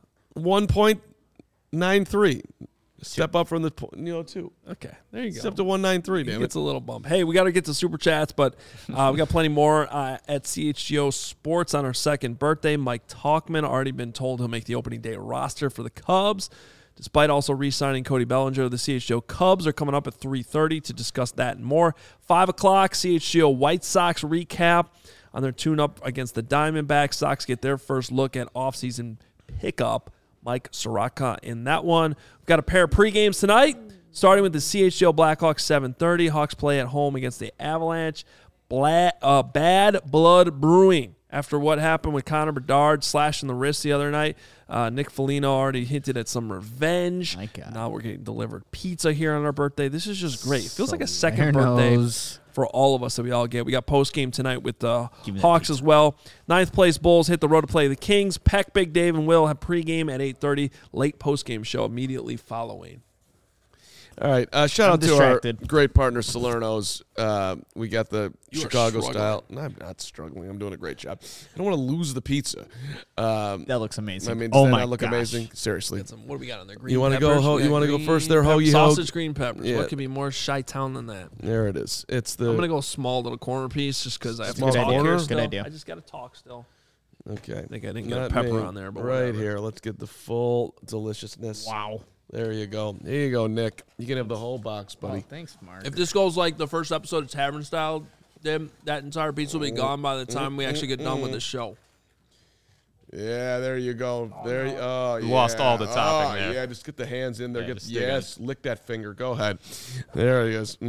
1.93. Step up from the 2. Okay, there you go. Step to 193, damn it. It's a little bump. Hey, we got to get to Super Chats, but we got plenty more at CHGO Sports on our second birthday. Mike Talkman already been told he'll make the opening day roster for the Cubs, despite also re-signing Cody Bellinger. The CHGO Cubs are coming up at 3:30 to discuss that and more. 5 o'clock, CHGO White Sox recap on their tune-up against the Diamondbacks. Sox get their first look at offseason pickup. Mike Soraka in that one. We've got a pair of pregames tonight, starting with the CHGO Blackhawks 7:30. Hawks play at home against the Avalanche. Bad blood brewing after what happened with Connor Bedard slashing the wrist the other night. Nick Foligno already hinted at some revenge. My God. Now we're getting delivered pizza here on our birthday. This is just great. It feels like a second birthday for all of us that we all get. We got post game tonight with the Hawks as well. 9th place Bulls hit the road to play the Kings. Peck, Big Dave, and Will have pregame at 8:30. Late post game show immediately following. All right. Shout out to our great partner, Salerno's. We got the Chicago style. No, I'm not struggling. I'm doing a great job. I don't want to lose the pizza. That looks amazing. I mean, does that not look amazing? Seriously. What do we got on there? Green you want to go? You want to go first there, Hoagie? Sausage, green peppers. Yeah. What could be more Chi-Town than that? There it is. It's the. I'm gonna go small little corner piece just because I have to talk here. Good idea. I just got to talk still. Okay. I think I didn't get a pepper on there, but right whatever. here. Let's get the full deliciousness. Wow. There you go. Here you go, Nick. You can have the whole box, buddy. Oh, thanks, Mark. If this goes like the first episode of Tavern Style, Then that entire pizza will be gone by the time we actually get done with the show. Yeah, there you go. There, You lost all the topping there. Yeah, just get the hands in there. Yeah, Get just stick it. yes, lick that finger. Go ahead. There he is.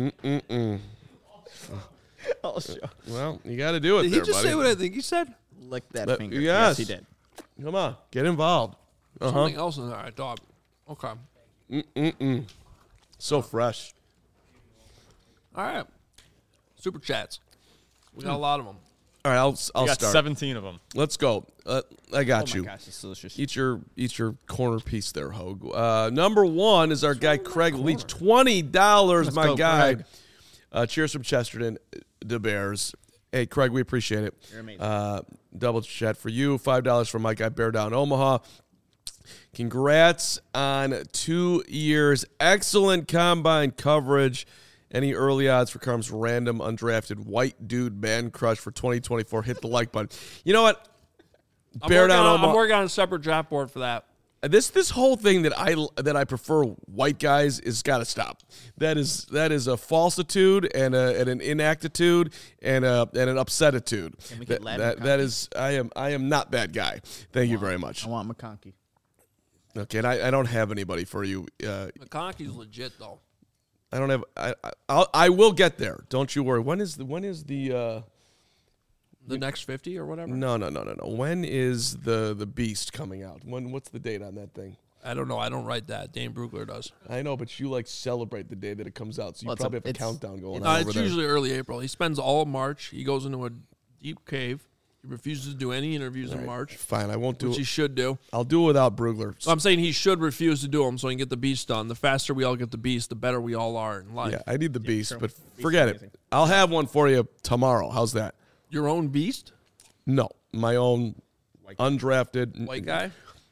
I'll show. Well, you got to do it. Did there, he just buddy. say what I think he said? Lick that But- finger. yes. He did. Come on, get involved. Something else in there, I thought. Okay. So fresh. All right. Super chats. We got a lot of them. All right, I'll We got start. 17 of them. Let's go. I got Oh you. my gosh, it's delicious. Eat your corner piece there, Hogue. Number one is our guy Craig Leach. $20, my go, guy. Craig. Cheers from Chesterton, the Bears. Hey, Craig, we appreciate it. You're amazing. Double chat for you. $5 from my guy Bear Down Omaha. Congrats on 2 years. Excellent combine coverage. Any early odds for Carm's random undrafted white dude man crush for 2024? Hit the like button. You know what? Bear Down Omaha. I'm working on a separate draft board for that. This whole thing that I prefer white guys is got to stop. That is a falsitude and an inactitude and an upsetitude. Can we get Latin that is I am not that guy. Thank you very much. I want McConkey. Okay, and I don't have anybody for you. McConkey's legit though. I don't have. I will get there. Don't you worry. When is the The next 50 or whatever. No. When is the Beast coming out? What's the date on that thing? I don't know. I don't write that. Dane Brugler does. I know, but you celebrate the day that it comes out, so you Well, probably have a it's- countdown going No, on over it's there. usually early April. He spends all of March. He goes into a deep cave. He refuses to do any interviews in March, Fine, I won't do which he it. should do. I'll do it without Brugler. So I'm saying he should refuse to do them so he can get the beast done. The faster we all get the beast, the better we all are in life. Yeah, I need the Beast, true. but Beast forget is it. amazing. I'll have one for you tomorrow. How's that? Your own beast, No, my own undrafted. white guy.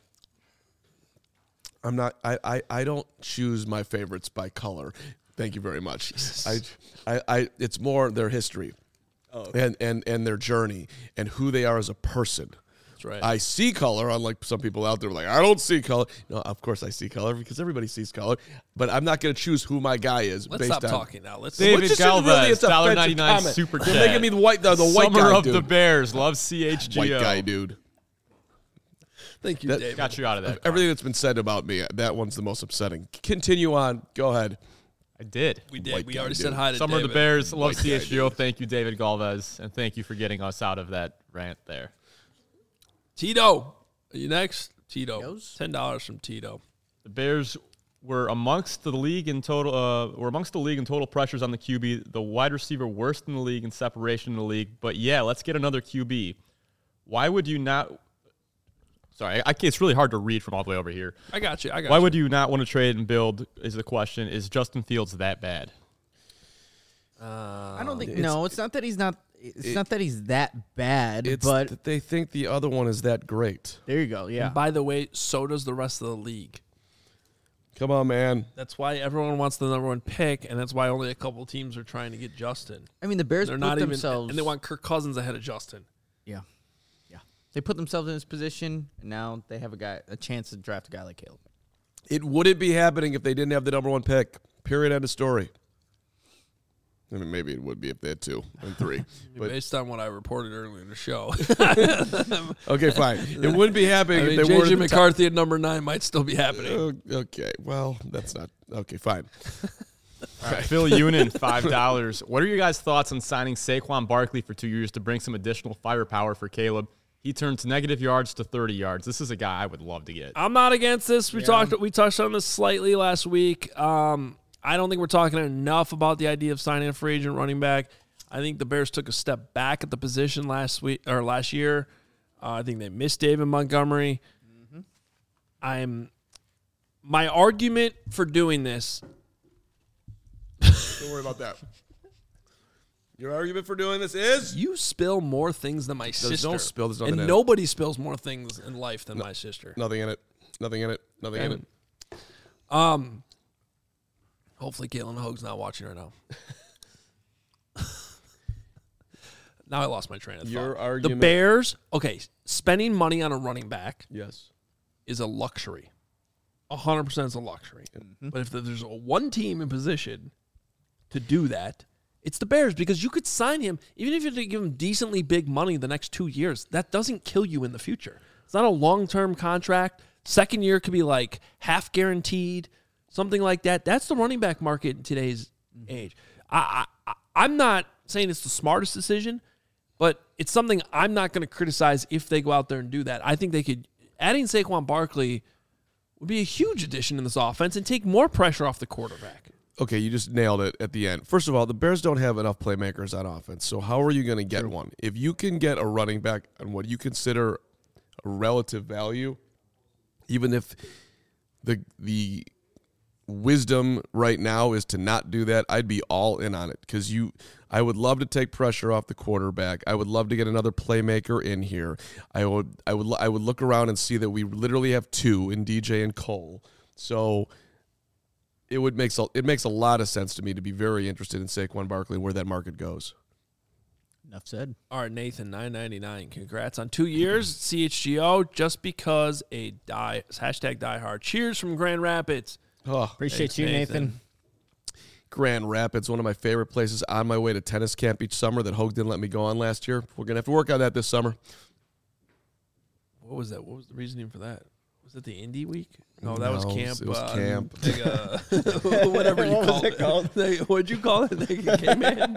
I'm not. I don't choose my favorites by color. Thank you very much. I it's more their history, and their journey and who they are as a person. That's right. I see color, unlike some people out there like, I don't see color. No, of course I see color because everybody sees color, but I'm not going to choose who my guy is Let's based stop on. talking now. Let's David Which isn't really- it's Galvez, an offensive $1.99 comment. super You're chat. making me the white guy, Summer of dude. the Bears. Love CHGO. White guy, dude. Thank you, That- David. Got you out of that. Everything that's been said about me, that one's the most upsetting. Continue on. Go ahead. I did. We did. White We guy, already dude. said hi to Summer of David. the Bears. Love White guy, CHGO. Thank you, David Galvez. And thank you for getting us out of that rant there. Tito, are you next? Tito. Goes. $10 from Tito. The Bears were amongst the league in total. Were amongst the league in total pressures on the QB. The wide receiver worst in the league in separation in the league. But yeah, let's get another QB. Why would you not? Sorry, it's really hard to read from all the way over here. I got you. Why would you not want to trade and build? Is the question. Is Justin Fields that bad? I don't think. No, it's not that he's not. It's not that he's that bad. It's but that they think the other one is that great. there you go. Yeah. And by the way, so does the rest of the league. Come on, man. That's why everyone wants the number one pick, and that's why only a couple teams are trying to get Justin. I mean, the Bears They're put not themselves. even, and they want Kirk Cousins ahead of Justin. Yeah. They put themselves in this position, and now they have a chance to draft a guy like Caleb. It wouldn't be happening if they didn't have the number one pick. Period. End of story. I mean, maybe it would be if they had 2 and 3. But Based on what I reported earlier in the show, okay, fine. It wouldn't be happening I mean, if they weren't J.J. at the top. McCarthy at number 9 might still be happening. Okay, well, that's not okay. Fine. All right, Phil Unin, $5. What are your guys' thoughts on signing Saquon Barkley for 2 years to bring some additional firepower for Caleb? He turns negative yards to 30 yards. This is a guy I would love to get. I'm not against this. We touched on this slightly last week. I don't think we're talking enough about the idea of signing a free agent running back. I think the Bears took a step back at the position last year. I think they missed David Montgomery. My argument for doing this. Don't worry about that. Your argument for doing this is You spill more things than my sister. no spill. There's nothing and in it. nobody spills more things in life than my sister. nothing in it. Nothing in it. Nothing in it. Hopefully Caitlin Hogue's not watching right now. Now I lost my train of thought. Your The argument- Bears, okay, spending money on a running back Yes. is a luxury. 100% is a luxury. But if there's one team in position to do that, It's the Bears because you could sign him, even if you give him decently big money the next 2 years. That doesn't kill you in the future. It's not a long-term contract. Second year could be like half guaranteed, something like that. That's the running back market in today's age. I'm not saying it's the smartest decision, but it's something I'm not going to criticize if they go out there and do that. I think they could. Adding Saquon Barkley would be a huge addition in this offense and take more pressure off the quarterback. Okay, you just nailed it at the end. First of all, the Bears don't have enough playmakers on offense, so how are you going to get one? If you can get a running back on what you consider a relative value, even if the wisdom right now is to not do that, I'd be all in on it because I would love to take pressure off the quarterback. I would love to get another playmaker in here. I would look around and see that we literally have two in DJ and Cole. So it makes a lot of sense to me to be very interested in Saquon Barkley and where that market goes. Enough said. All right, Nathan, $9.99. Congrats on 2 years, CHGO, just because hashtag diehard. Cheers from Grand Rapids. Oh, Appreciate thanks, you, Nathan. Grand Rapids, one of my favorite places on my way to tennis camp each summer that Hogue didn't let me go on last year. We're going to have to work on that this summer. What was that? What was the reasoning for that? Was it the Indie Week? No, that was camp. It was camp. Whatever you called it. What'd you call it? K-Man?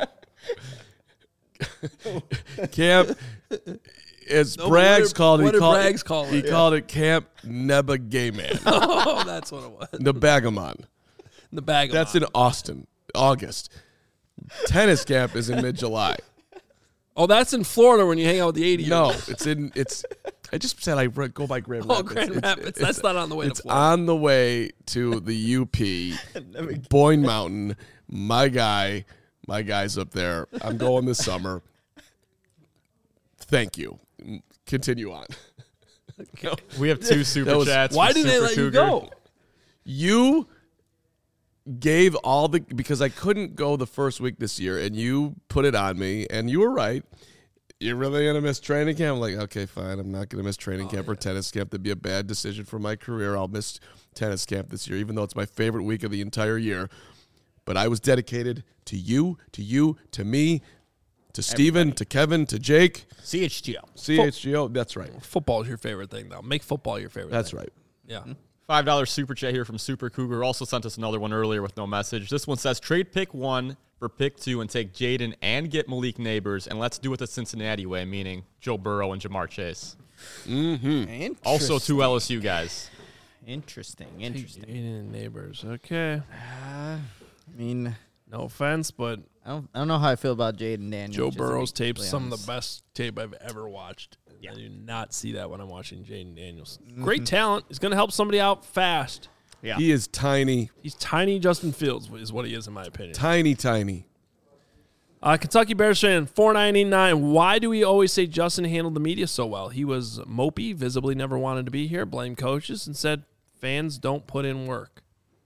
Camp. As No, Braggs called it, what did Braggs call it? He called it Camp Neba Gay Man. Oh, that's what it was. Nebagamon. The bag. That's in Austin, August. Tennis camp is in mid-July. Oh, that's in Florida when you hang out with the 80s. No, it's. I just said I go by Grand Rapids. Oh, Grand Rapids. That's not on the way to It's Florida. on the way to the UP, Boyne Mountain. My guy's up there. I'm going this summer. Thank you. Continue on. We have two super chats. Why from did they Super let you Cougar. go? You gave all the because I couldn't go the first week this year, and you put it on me, and you were right. You're really gonna miss training camp? I'm like, okay, fine. I'm not gonna miss training camp or tennis camp. That'd be a bad decision for my career. I'll miss tennis camp this year, even though it's my favorite week of the entire year. But I was dedicated to you, to me, to Steven, to Kevin, to Jake. CHGO. That's right. Football is your favorite thing, though. Make football your favorite That's thing. right. Yeah. $5 super chat here from Super Cougar. Also sent us another one earlier with no message. This one says, trade pick 1 for pick 2 and take Jaden and get Malik Neighbors, and let's do it the Cincinnati way, meaning Joe Burrow and Jamar Chase. Mm-hmm. Also 2 LSU guys. Interesting. Neighbors. Okay. I mean, No offense, but I don't know how I feel about Jaden Daniels. Joe just to be Burrow's tape's completely some of honest. the best tape I've ever watched. I do not see that when I'm watching Jaden Daniels. Mm-hmm. Great talent. He's going to help somebody out fast. Yeah. He is tiny, He's tiny Justin Fields is what he is in my opinion. tiny. Kentucky Bears fan, $4.99. Why do we always say Justin handled the media so well? He was mopey, visibly never wanted to be here, blamed coaches, and said fans don't put in work.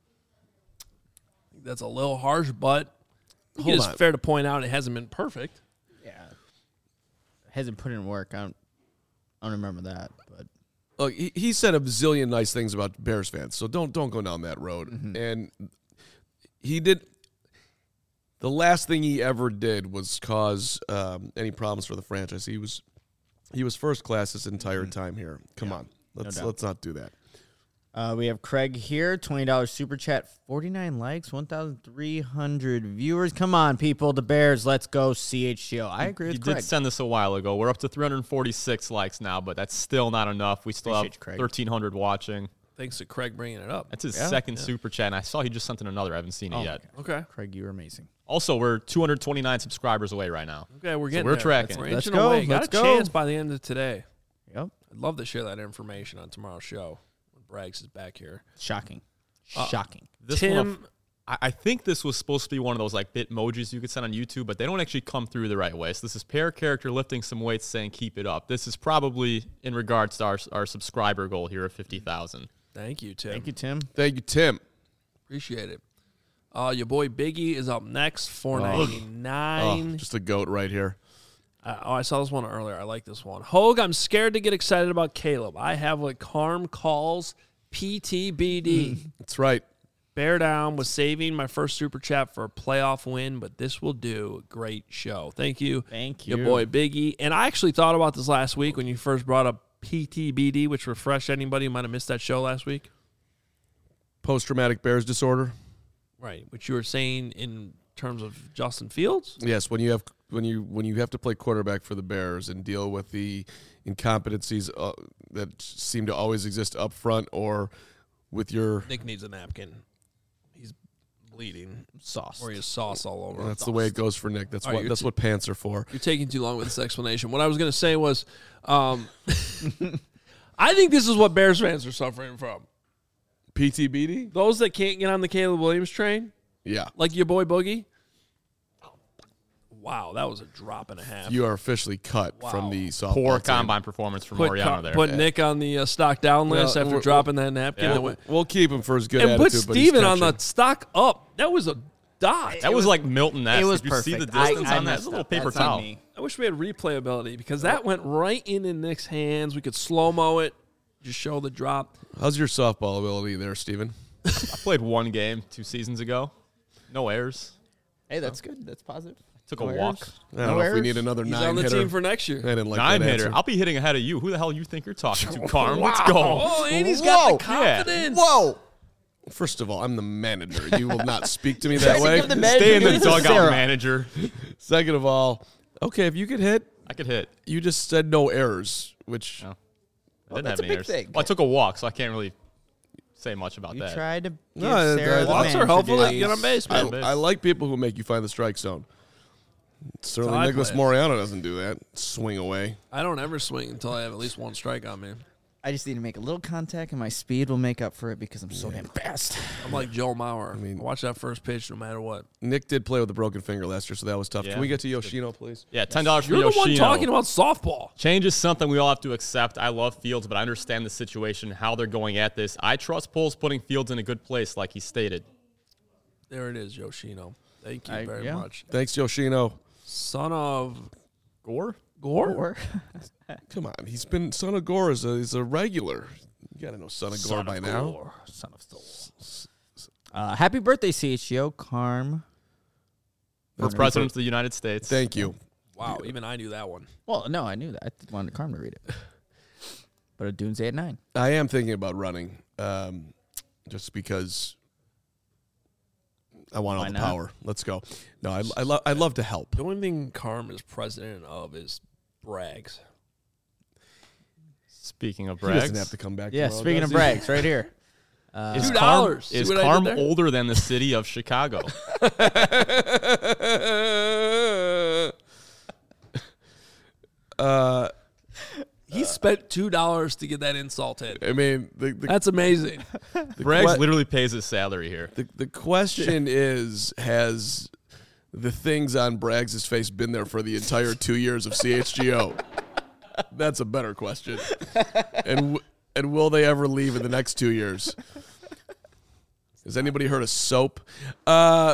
I think that's a little harsh, but I think it is fair to point out it hasn't been perfect. Yeah. Hasn't put in work. I don't remember that, but Look, he said a bazillion nice things about Bears fans, so don't go down that road. Mm-hmm. And he did. The last thing he ever did was cause any problems for the franchise. He was first class this entire time here. Come on, let's not do that. we have Craig here, $20 super chat, 49 likes, 1,300 viewers. Come on, people, the Bears, let's go CHGO. I agree with You Craig. did send this a while ago. We're up to 346 likes now, but that's still not enough. We still Appreciate have you, Craig. 1,300 watching. Thanks to Craig bringing it up. That's his second super chat, and I saw he just sent in another. I haven't seen it yet. Okay. Craig, you're amazing. Also, we're 229 subscribers away right now. Okay, we're getting we're there. tracking. We're Let's inching go. away. Got Let's a go. chance by the end of today. Yep. I'd love to share that information on tomorrow's show when Braggs is back here. Shocking. Shocking. This Tim- one, I think this was supposed to be one of those like Bitmojis you could send on YouTube, but they don't actually come through the right way. So this is pair character lifting some weights saying keep it up. This is probably in regards to our subscriber goal here of 50,000. Thank you, Tim. Thank you, Tim. Thank you, Tim. Appreciate it. Your boy Biggie is up next, $4.99. Just a goat right here. I saw this one earlier. I like this one. Hogue, I'm scared to get excited about Caleb. I have what Carm calls PTBD. That's right. Bear down was saving my first super chat for a playoff win, but this will do. Great show. Thank you. Thank Your you. boy Biggie. And I actually thought about this last week when you first brought up PTBD, which refreshed anybody who might have missed that show last week. Post-traumatic Bears disorder. Right. Which you were saying in terms of Justin Fields. Yes, when you have to play quarterback for the Bears and deal with the incompetencies that seem to always exist up front or with your... Nick needs a napkin. He's bleeding. Sauce. Or he has sauce all over him. That's the way it goes for Nick. That's All right, what you're that's what pants are for. You're taking too long with this explanation. What I was going to say was, I think this is what Bears fans are suffering from. PTBD? Those that can't get on the Caleb Williams train, Yeah. like your boy Boogie. Wow, that was a drop and a half. You are officially cut from the softball Poor team. combine performance from Mariano there. Put Nick on the stock down list Well, after we're- dropping that napkin. Yeah. that went, We'll keep him for his good and attitude. put but he's Steven on the catching. stock up. That was a dot. That was like Milton-esque. It was Did you see the perfect. distance I on that? messed It's a little up. paper That's on towel. me. I wish we had replayability because that went right in Nick's hands. We could slow-mo it, just show the drop. How's your softball ability there, Steven? I played one game 2 seasons ago. No errors. Hey, that's good. That's positive. Took a No walk. errors? I don't know if we errors? need another He's 9 on the hitter. team for next year. I didn't like 9 that hitter. answer. I'll be hitting ahead of you. Who the hell you think you're talking to, Carm? Let's go. Oh, and he's got the Whoa. Yeah. confidence. Whoa. First of all, I'm the manager. You will not speak to me that way. Give the manager Stay in the news to dugout, Sarah. manager. Second of all, okay, if you could hit, I could hit. you just said no errors, which No. I didn't that's have a any big errors. thing. Well, I took a walk, so I can't really say much about You that. tried to give No, Sarah the Walks are manager helpful to duties. get on base, I, man. I like people who make you find the strike zone. Certainly, how I Nicholas play it. Moreano doesn't do that. Swing away. I don't ever swing until I have at least one strike on me. I just need to make a little contact, and my speed will make up for it because I'm so damn fast. I'm like Joe Mauer. I mean- watch that first pitch no matter what. Nick did play with a broken finger last year, so that was tough. Yeah. Can we get to Yoshino, please? Yeah, $10 for You're the one Yoshino. talking about softball. Change is something we all have to accept. I love Fields, but I understand the situation, how they're going at this. I trust Poles putting Fields in a good place, like he stated. There it is, Yoshino. Thank you very yeah. much. Thanks, Yoshino. Son of Gore? Gore? Or Come on, he's been Son of Gore is a regular. You gotta know Son of Gore by now. son of Souls. Happy birthday, CHGO, Carm. For President of the United States. Thank you. Wow, even I knew that one. Well, no, I knew that. I wanted Carm to read it. But a Doomsday at 9. I am thinking about running, just because I want all Why the not? power. Let's go. No, I'd love to help. The only thing Carm is president of is brags. Speaking of He doesn't brags, have to come back. Yeah, tomorrow, speaking does of he? brags, right here. is $2. Carm, See is what I did Carm there? older than the city of Chicago? He spent $2 to get that insult hit. I mean, That's amazing. Brags que- literally pays his salary here. the question is, has the things on Braggs' face been there for the entire 2 years of CHGO? That's a better question. And will they ever leave in the next 2 years? Has anybody heard of soap? My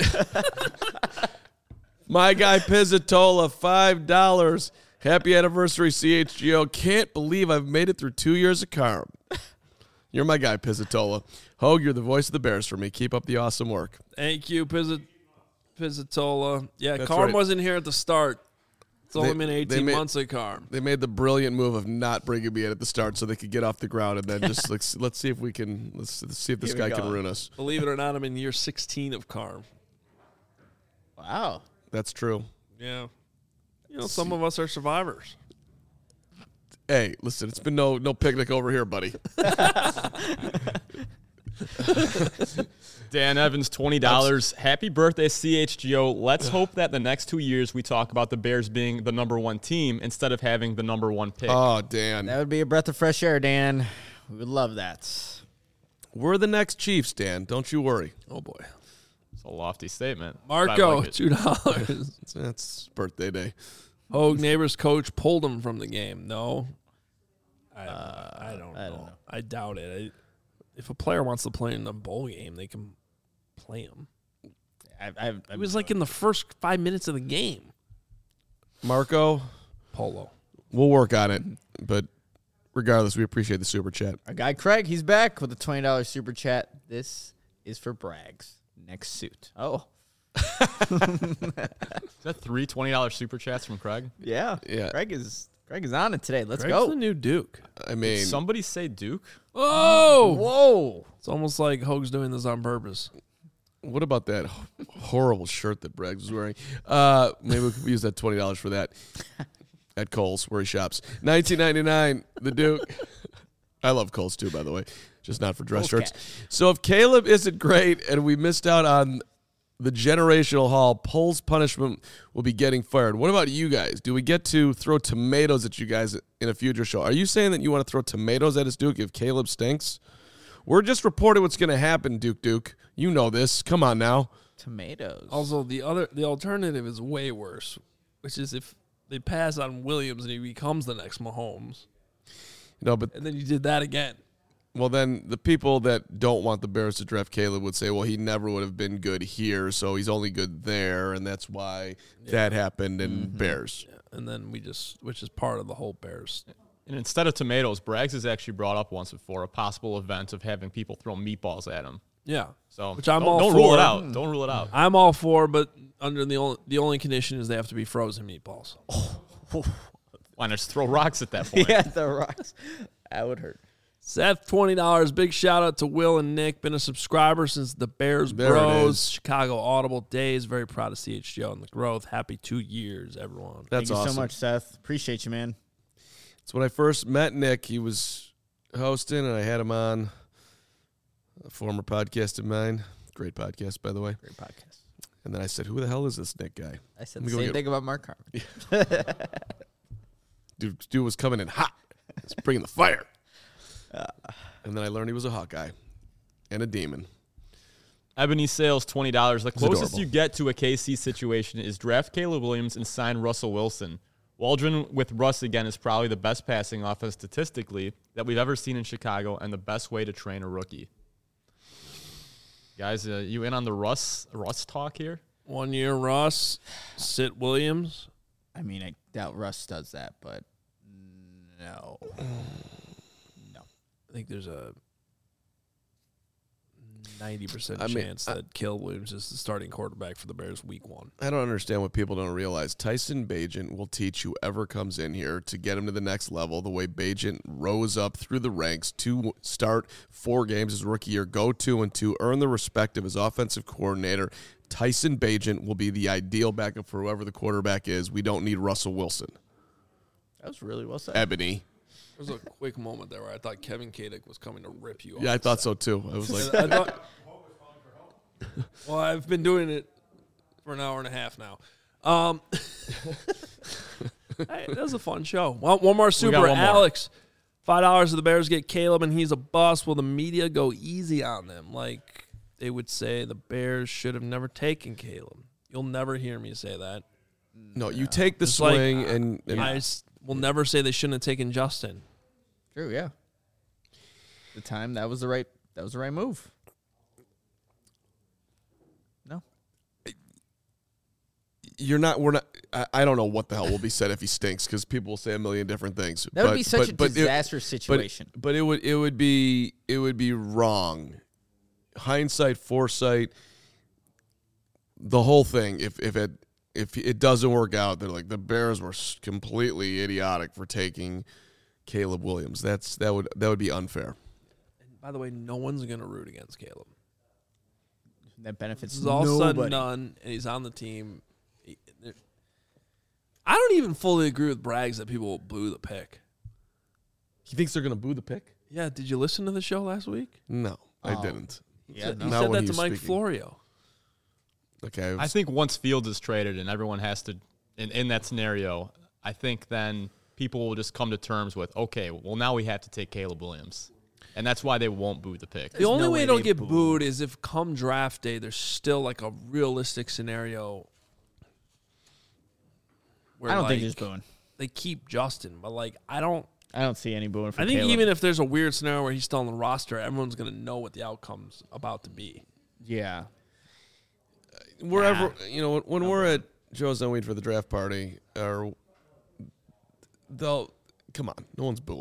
guy Pizzatola, $5. Happy anniversary, CHGO. Can't believe I've made it through 2 years of Carm. You're my guy, Pizzatola. Hogue, you're the voice of the Bears for me. Keep up the awesome work. Thank you, Pizzatola. Yeah, That's Carm right. wasn't here at the start. It's only They- been they 18 made- months of Carm. They made the brilliant move of not bringing me in at the start so they could get off the ground and then just let's see if we can let's see if this Here we guy can go. ruin us. Believe it or not, I'm in year 16 of Carm. Wow. That's true. Yeah. You know, some of us are survivors. Hey, listen, it's been no picnic over here, buddy. Dan Evans, $20. Happy birthday, CHGO. Let's hope that the next 2 years we talk about the Bears being the number one team instead of having the number one pick. Oh, Dan. That would be a breath of fresh air, Dan. We would love that. We're the next Chiefs, Dan. Don't you worry. Oh, boy. It's a lofty statement. but I Marco, like it. $2. That's birthday day. Hogue neighbor's coach pulled him from the game. No. I don't know. I doubt it. If a player wants to play in the bowl game, they can play him. It was like in the first 5 minutes of the game. Marco, Polo. we'll work on it. But regardless, we appreciate the super chat. Our guy Craig, he's back with a $20 super chat this is for Braggs' next suit. Oh. Is that three $20 super chats from Craig? Yeah. Yeah. Greg is on it today. Let's Greg's go. the new Duke. I mean, Did somebody say Duke? Oh, Whoa. it's almost like Hoag's doing this on purpose. what about that horrible shirt that Braggs was wearing? Maybe we could use that $20 for that at Kohl's, where he shops. $19.99, the Duke. I love Kohl's too, by the way, just not for dress Kohl's shirts. So if Caleb isn't great and we missed out on the generational haul, Poles punishment will be getting fired. What about you guys? Do we get to throw tomatoes at you guys in a future show? Are you saying that you want to throw tomatoes at us, Duke, if Caleb stinks? We're just reporting what's going to happen, Duke. You know this. Come on now. Tomatoes. Also, the alternative is way worse, which is if they pass on Williams and he becomes the next Mahomes, No, but and then you did that again. well, then the people that don't want the Bears to draft Caleb would say, well, he never would have been good here, so he's only good there, and that's why that happened in Bears. Yeah, and then which is part of the whole Bears. And instead of tomatoes, Braggs has actually brought up once before a possible event of having people throw meatballs at him. Yeah, So which I'm don't, all don't for. rule it out. Don't rule it out. I'm all for, but under the only condition is they have to be frozen meatballs. Why not just throw rocks at that point? Yeah, the rocks. That would hurt. Seth, $20. Big shout out to Will and Nick. Been a subscriber since the Bears There it Bros. is. Chicago Audible days. Very proud of CHGO and the growth. Happy 2 years, everyone. That's Thank you awesome. so much, Seth. Appreciate you, man. It's when I first met Nick. He was hosting, and I had him on a former podcast of mine. Great podcast, by the way. Great podcast. And then I said, who the hell is this Nick guy? I said Let me the go same get- thing about Mark Carmen. Dude was coming in hot. He's bringing the fire. And then I learned he was a Hawkeye and a demon. Ebony Sales, $20. The closest adorable. you get to a KC situation is draft Caleb Williams and sign Russell Wilson. Waldron with Russ again is probably the best passing offense statistically that we've ever seen in Chicago and the best way to train a rookie. Guys, you in on the Russ talk here? 1 year Russ, sit Williams. I mean, I doubt Russ does that, but no. No. I think there's a 90% I mean, chance that Caleb Williams is the starting quarterback for the Bears week 1. I don't understand what people don't realize. Tyson Bagent will teach whoever comes in here to get him to the next level the way Bagent rose up through the ranks to start 4 games his rookie year, go 2-2, earn the respect of his offensive coordinator. Tyson Bagent will be the ideal backup for whoever the quarterback is. We don't need Russell Wilson. That was really well said. Ebony. There was a quick moment there where I thought Kevin Kadick was coming to rip you off. Yeah, I thought so too. I was like, I thought, well, I've been doing it for an hour and a half now. Hey, that was a fun show. Well, one more super. one more. Alex, $5 of the Bears get Caleb, and he's a bust. Will the media go easy on them? Like they would say the Bears should have never taken Caleb. You'll never hear me say that. no, you take the Just like, swing and I will never say they shouldn't have taken Justin. True, yeah. The time that was the right move. No. we're not. I don't know what the hell will be said if he stinks because people will say a million different things. That would be such a disastrous situation. But it would be wrong. Hindsight, foresight, the whole thing. If it doesn't work out, they're like the Bears were completely idiotic for taking Caleb Williams. That would be unfair. And by the way, no one's gonna root against Caleb. That benefits This is all said and nobody. done, and he's on the team. I don't even fully agree with Braggs that people will boo the pick. He thinks they're gonna boo the pick? Yeah, did you listen to the show last week? No, I Oh. didn't. Yeah, He no. Not said when that he to was Mike speaking. Florio. Okay, I think once Fields is traded and everyone has to, in that scenario, I think then people will just come to terms with, okay, well, now we have to take Caleb Williams. And that's why they won't boo the pick. The only no way way it'll they get boo. booed is if come draft day, there's still like a realistic scenario where I don't think like, he's booing. they keep Justin, but like I don't see any booing for I think Caleb. even if there's a weird scenario where he's still on the roster, everyone's gonna know what the outcome's about to be. Yeah. wherever when we're at Joe's and Weed for the draft party, or they'll come on, no one's booing.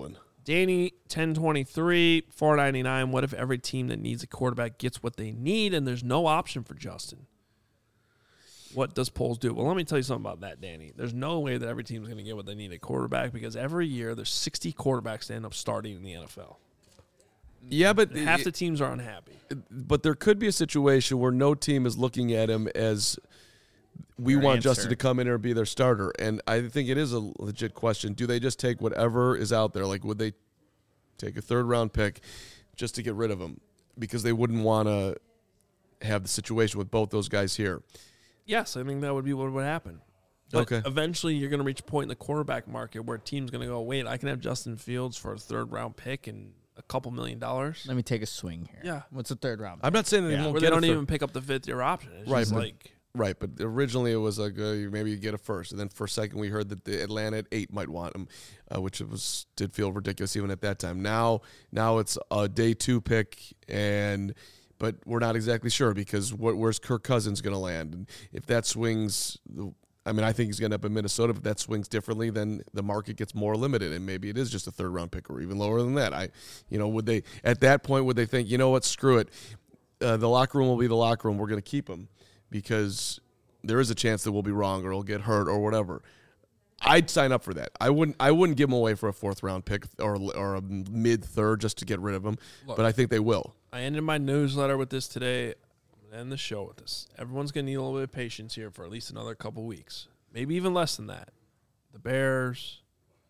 Danny 1023 $4.99. What if every team that needs a quarterback gets what they need and there's no option for Justin? What does Poles do? Well, let me tell you something about that, Danny. There's no way that every team's going to get what they need at quarterback because every year there's 60 quarterbacks that end up starting in the NFL. Yeah, but Half the teams are unhappy. But there could be a situation where no team is looking at him as we want Justin to come in here and be their starter. And I think it is a legit question. Do they just take whatever is out there? Like, would they take a third-round pick just to get rid of him? Because they wouldn't want to have the situation with both those guys here. Yes, I think that would be what would happen. But Okay. eventually you're going to reach a point in the quarterback market where a team's going to go, wait, I can have Justin Fields for a third-round pick and a couple $1 million. Let me take a swing here. Yeah. What's the third round? I'm not saying they won't Where get they don't a third. even pick up the fifth-year option. It's Right, just but- like... Right, but originally it was like maybe you get a first, and then for a second we heard that the Atlanta at 8 might want him, which did feel ridiculous even at that time. Now it's a day 2 pick, but we're not exactly sure because where's Kirk Cousins going to land? And if that swings, I think he's going to end up in Minnesota. But if that swings differently, then the market gets more limited, and maybe it is just a third-round pick or even lower than that. Would they at that point would they think, you know what, screw it, the locker room will be the locker room. We're going to keep him. Because there is a chance that we'll be wrong or he'll get hurt or whatever. I'd sign up for that. I wouldn't give him away for a 4th round pick or a mid-third just to get rid of him. Look, but I think they will. I ended my newsletter with this today. I'm going to end the show with this. Everyone's going to need a little bit of patience here for at least another couple weeks. Maybe even less than that. The Bears,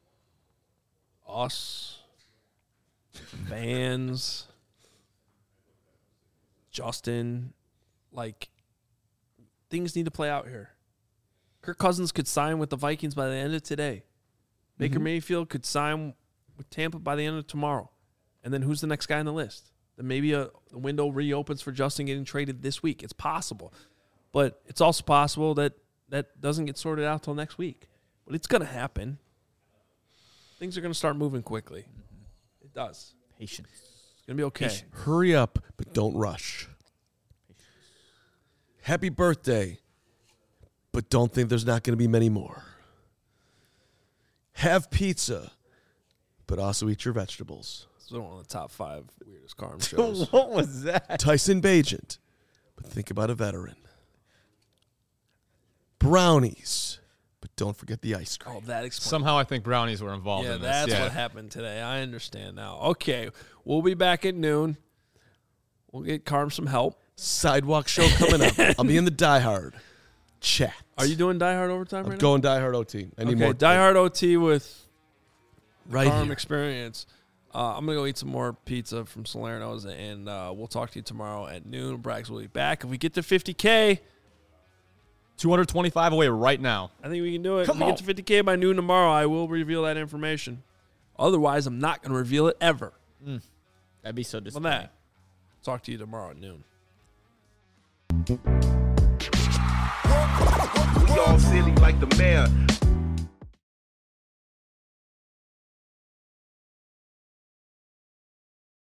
us, fans, Justin, things need to play out here. Kirk Cousins could sign with the Vikings by the end of today. Baker Mayfield could sign with Tampa by the end of tomorrow. And then who's the next guy on the list? Then maybe the window reopens for Justin getting traded this week. It's possible. But it's also possible that that doesn't get sorted out till next week. But it's going to happen. Things are going to start moving quickly. It does. Patience. It's going to be okay. Hurry up, but don't rush. Happy birthday, but don't think there's not going to be many more. Have pizza, but also eat your vegetables. It's one of the top 5 weirdest Carm shows. What was that? Tyson Bagent, but think about a veteran. Brownies, but don't forget the ice cream. Oh, that explains. Somehow I think brownies were involved Yeah, in this. that's Yeah. what happened today. I understand now. Okay, we'll be back at noon. We'll get Carm some help. Sidewalk show coming up. I'll be in the Die Hard chat. Are you doing Die Hard overtime I'm right going Die Hard OT. I now? need Okay, more. Die Hard OT with right Carm here. experience. I'm going to go eat some more pizza from Salerno's, and we'll talk to you tomorrow at noon. Braggs will be back. If we get to 50K, 225 away right now. I think we can do it. Come if we on. get to 50K by noon tomorrow, I will reveal that information. Otherwise, I'm not going to reveal it ever. That'd be so On disappointing. that, talk to you tomorrow at noon. We all silly like the mayor.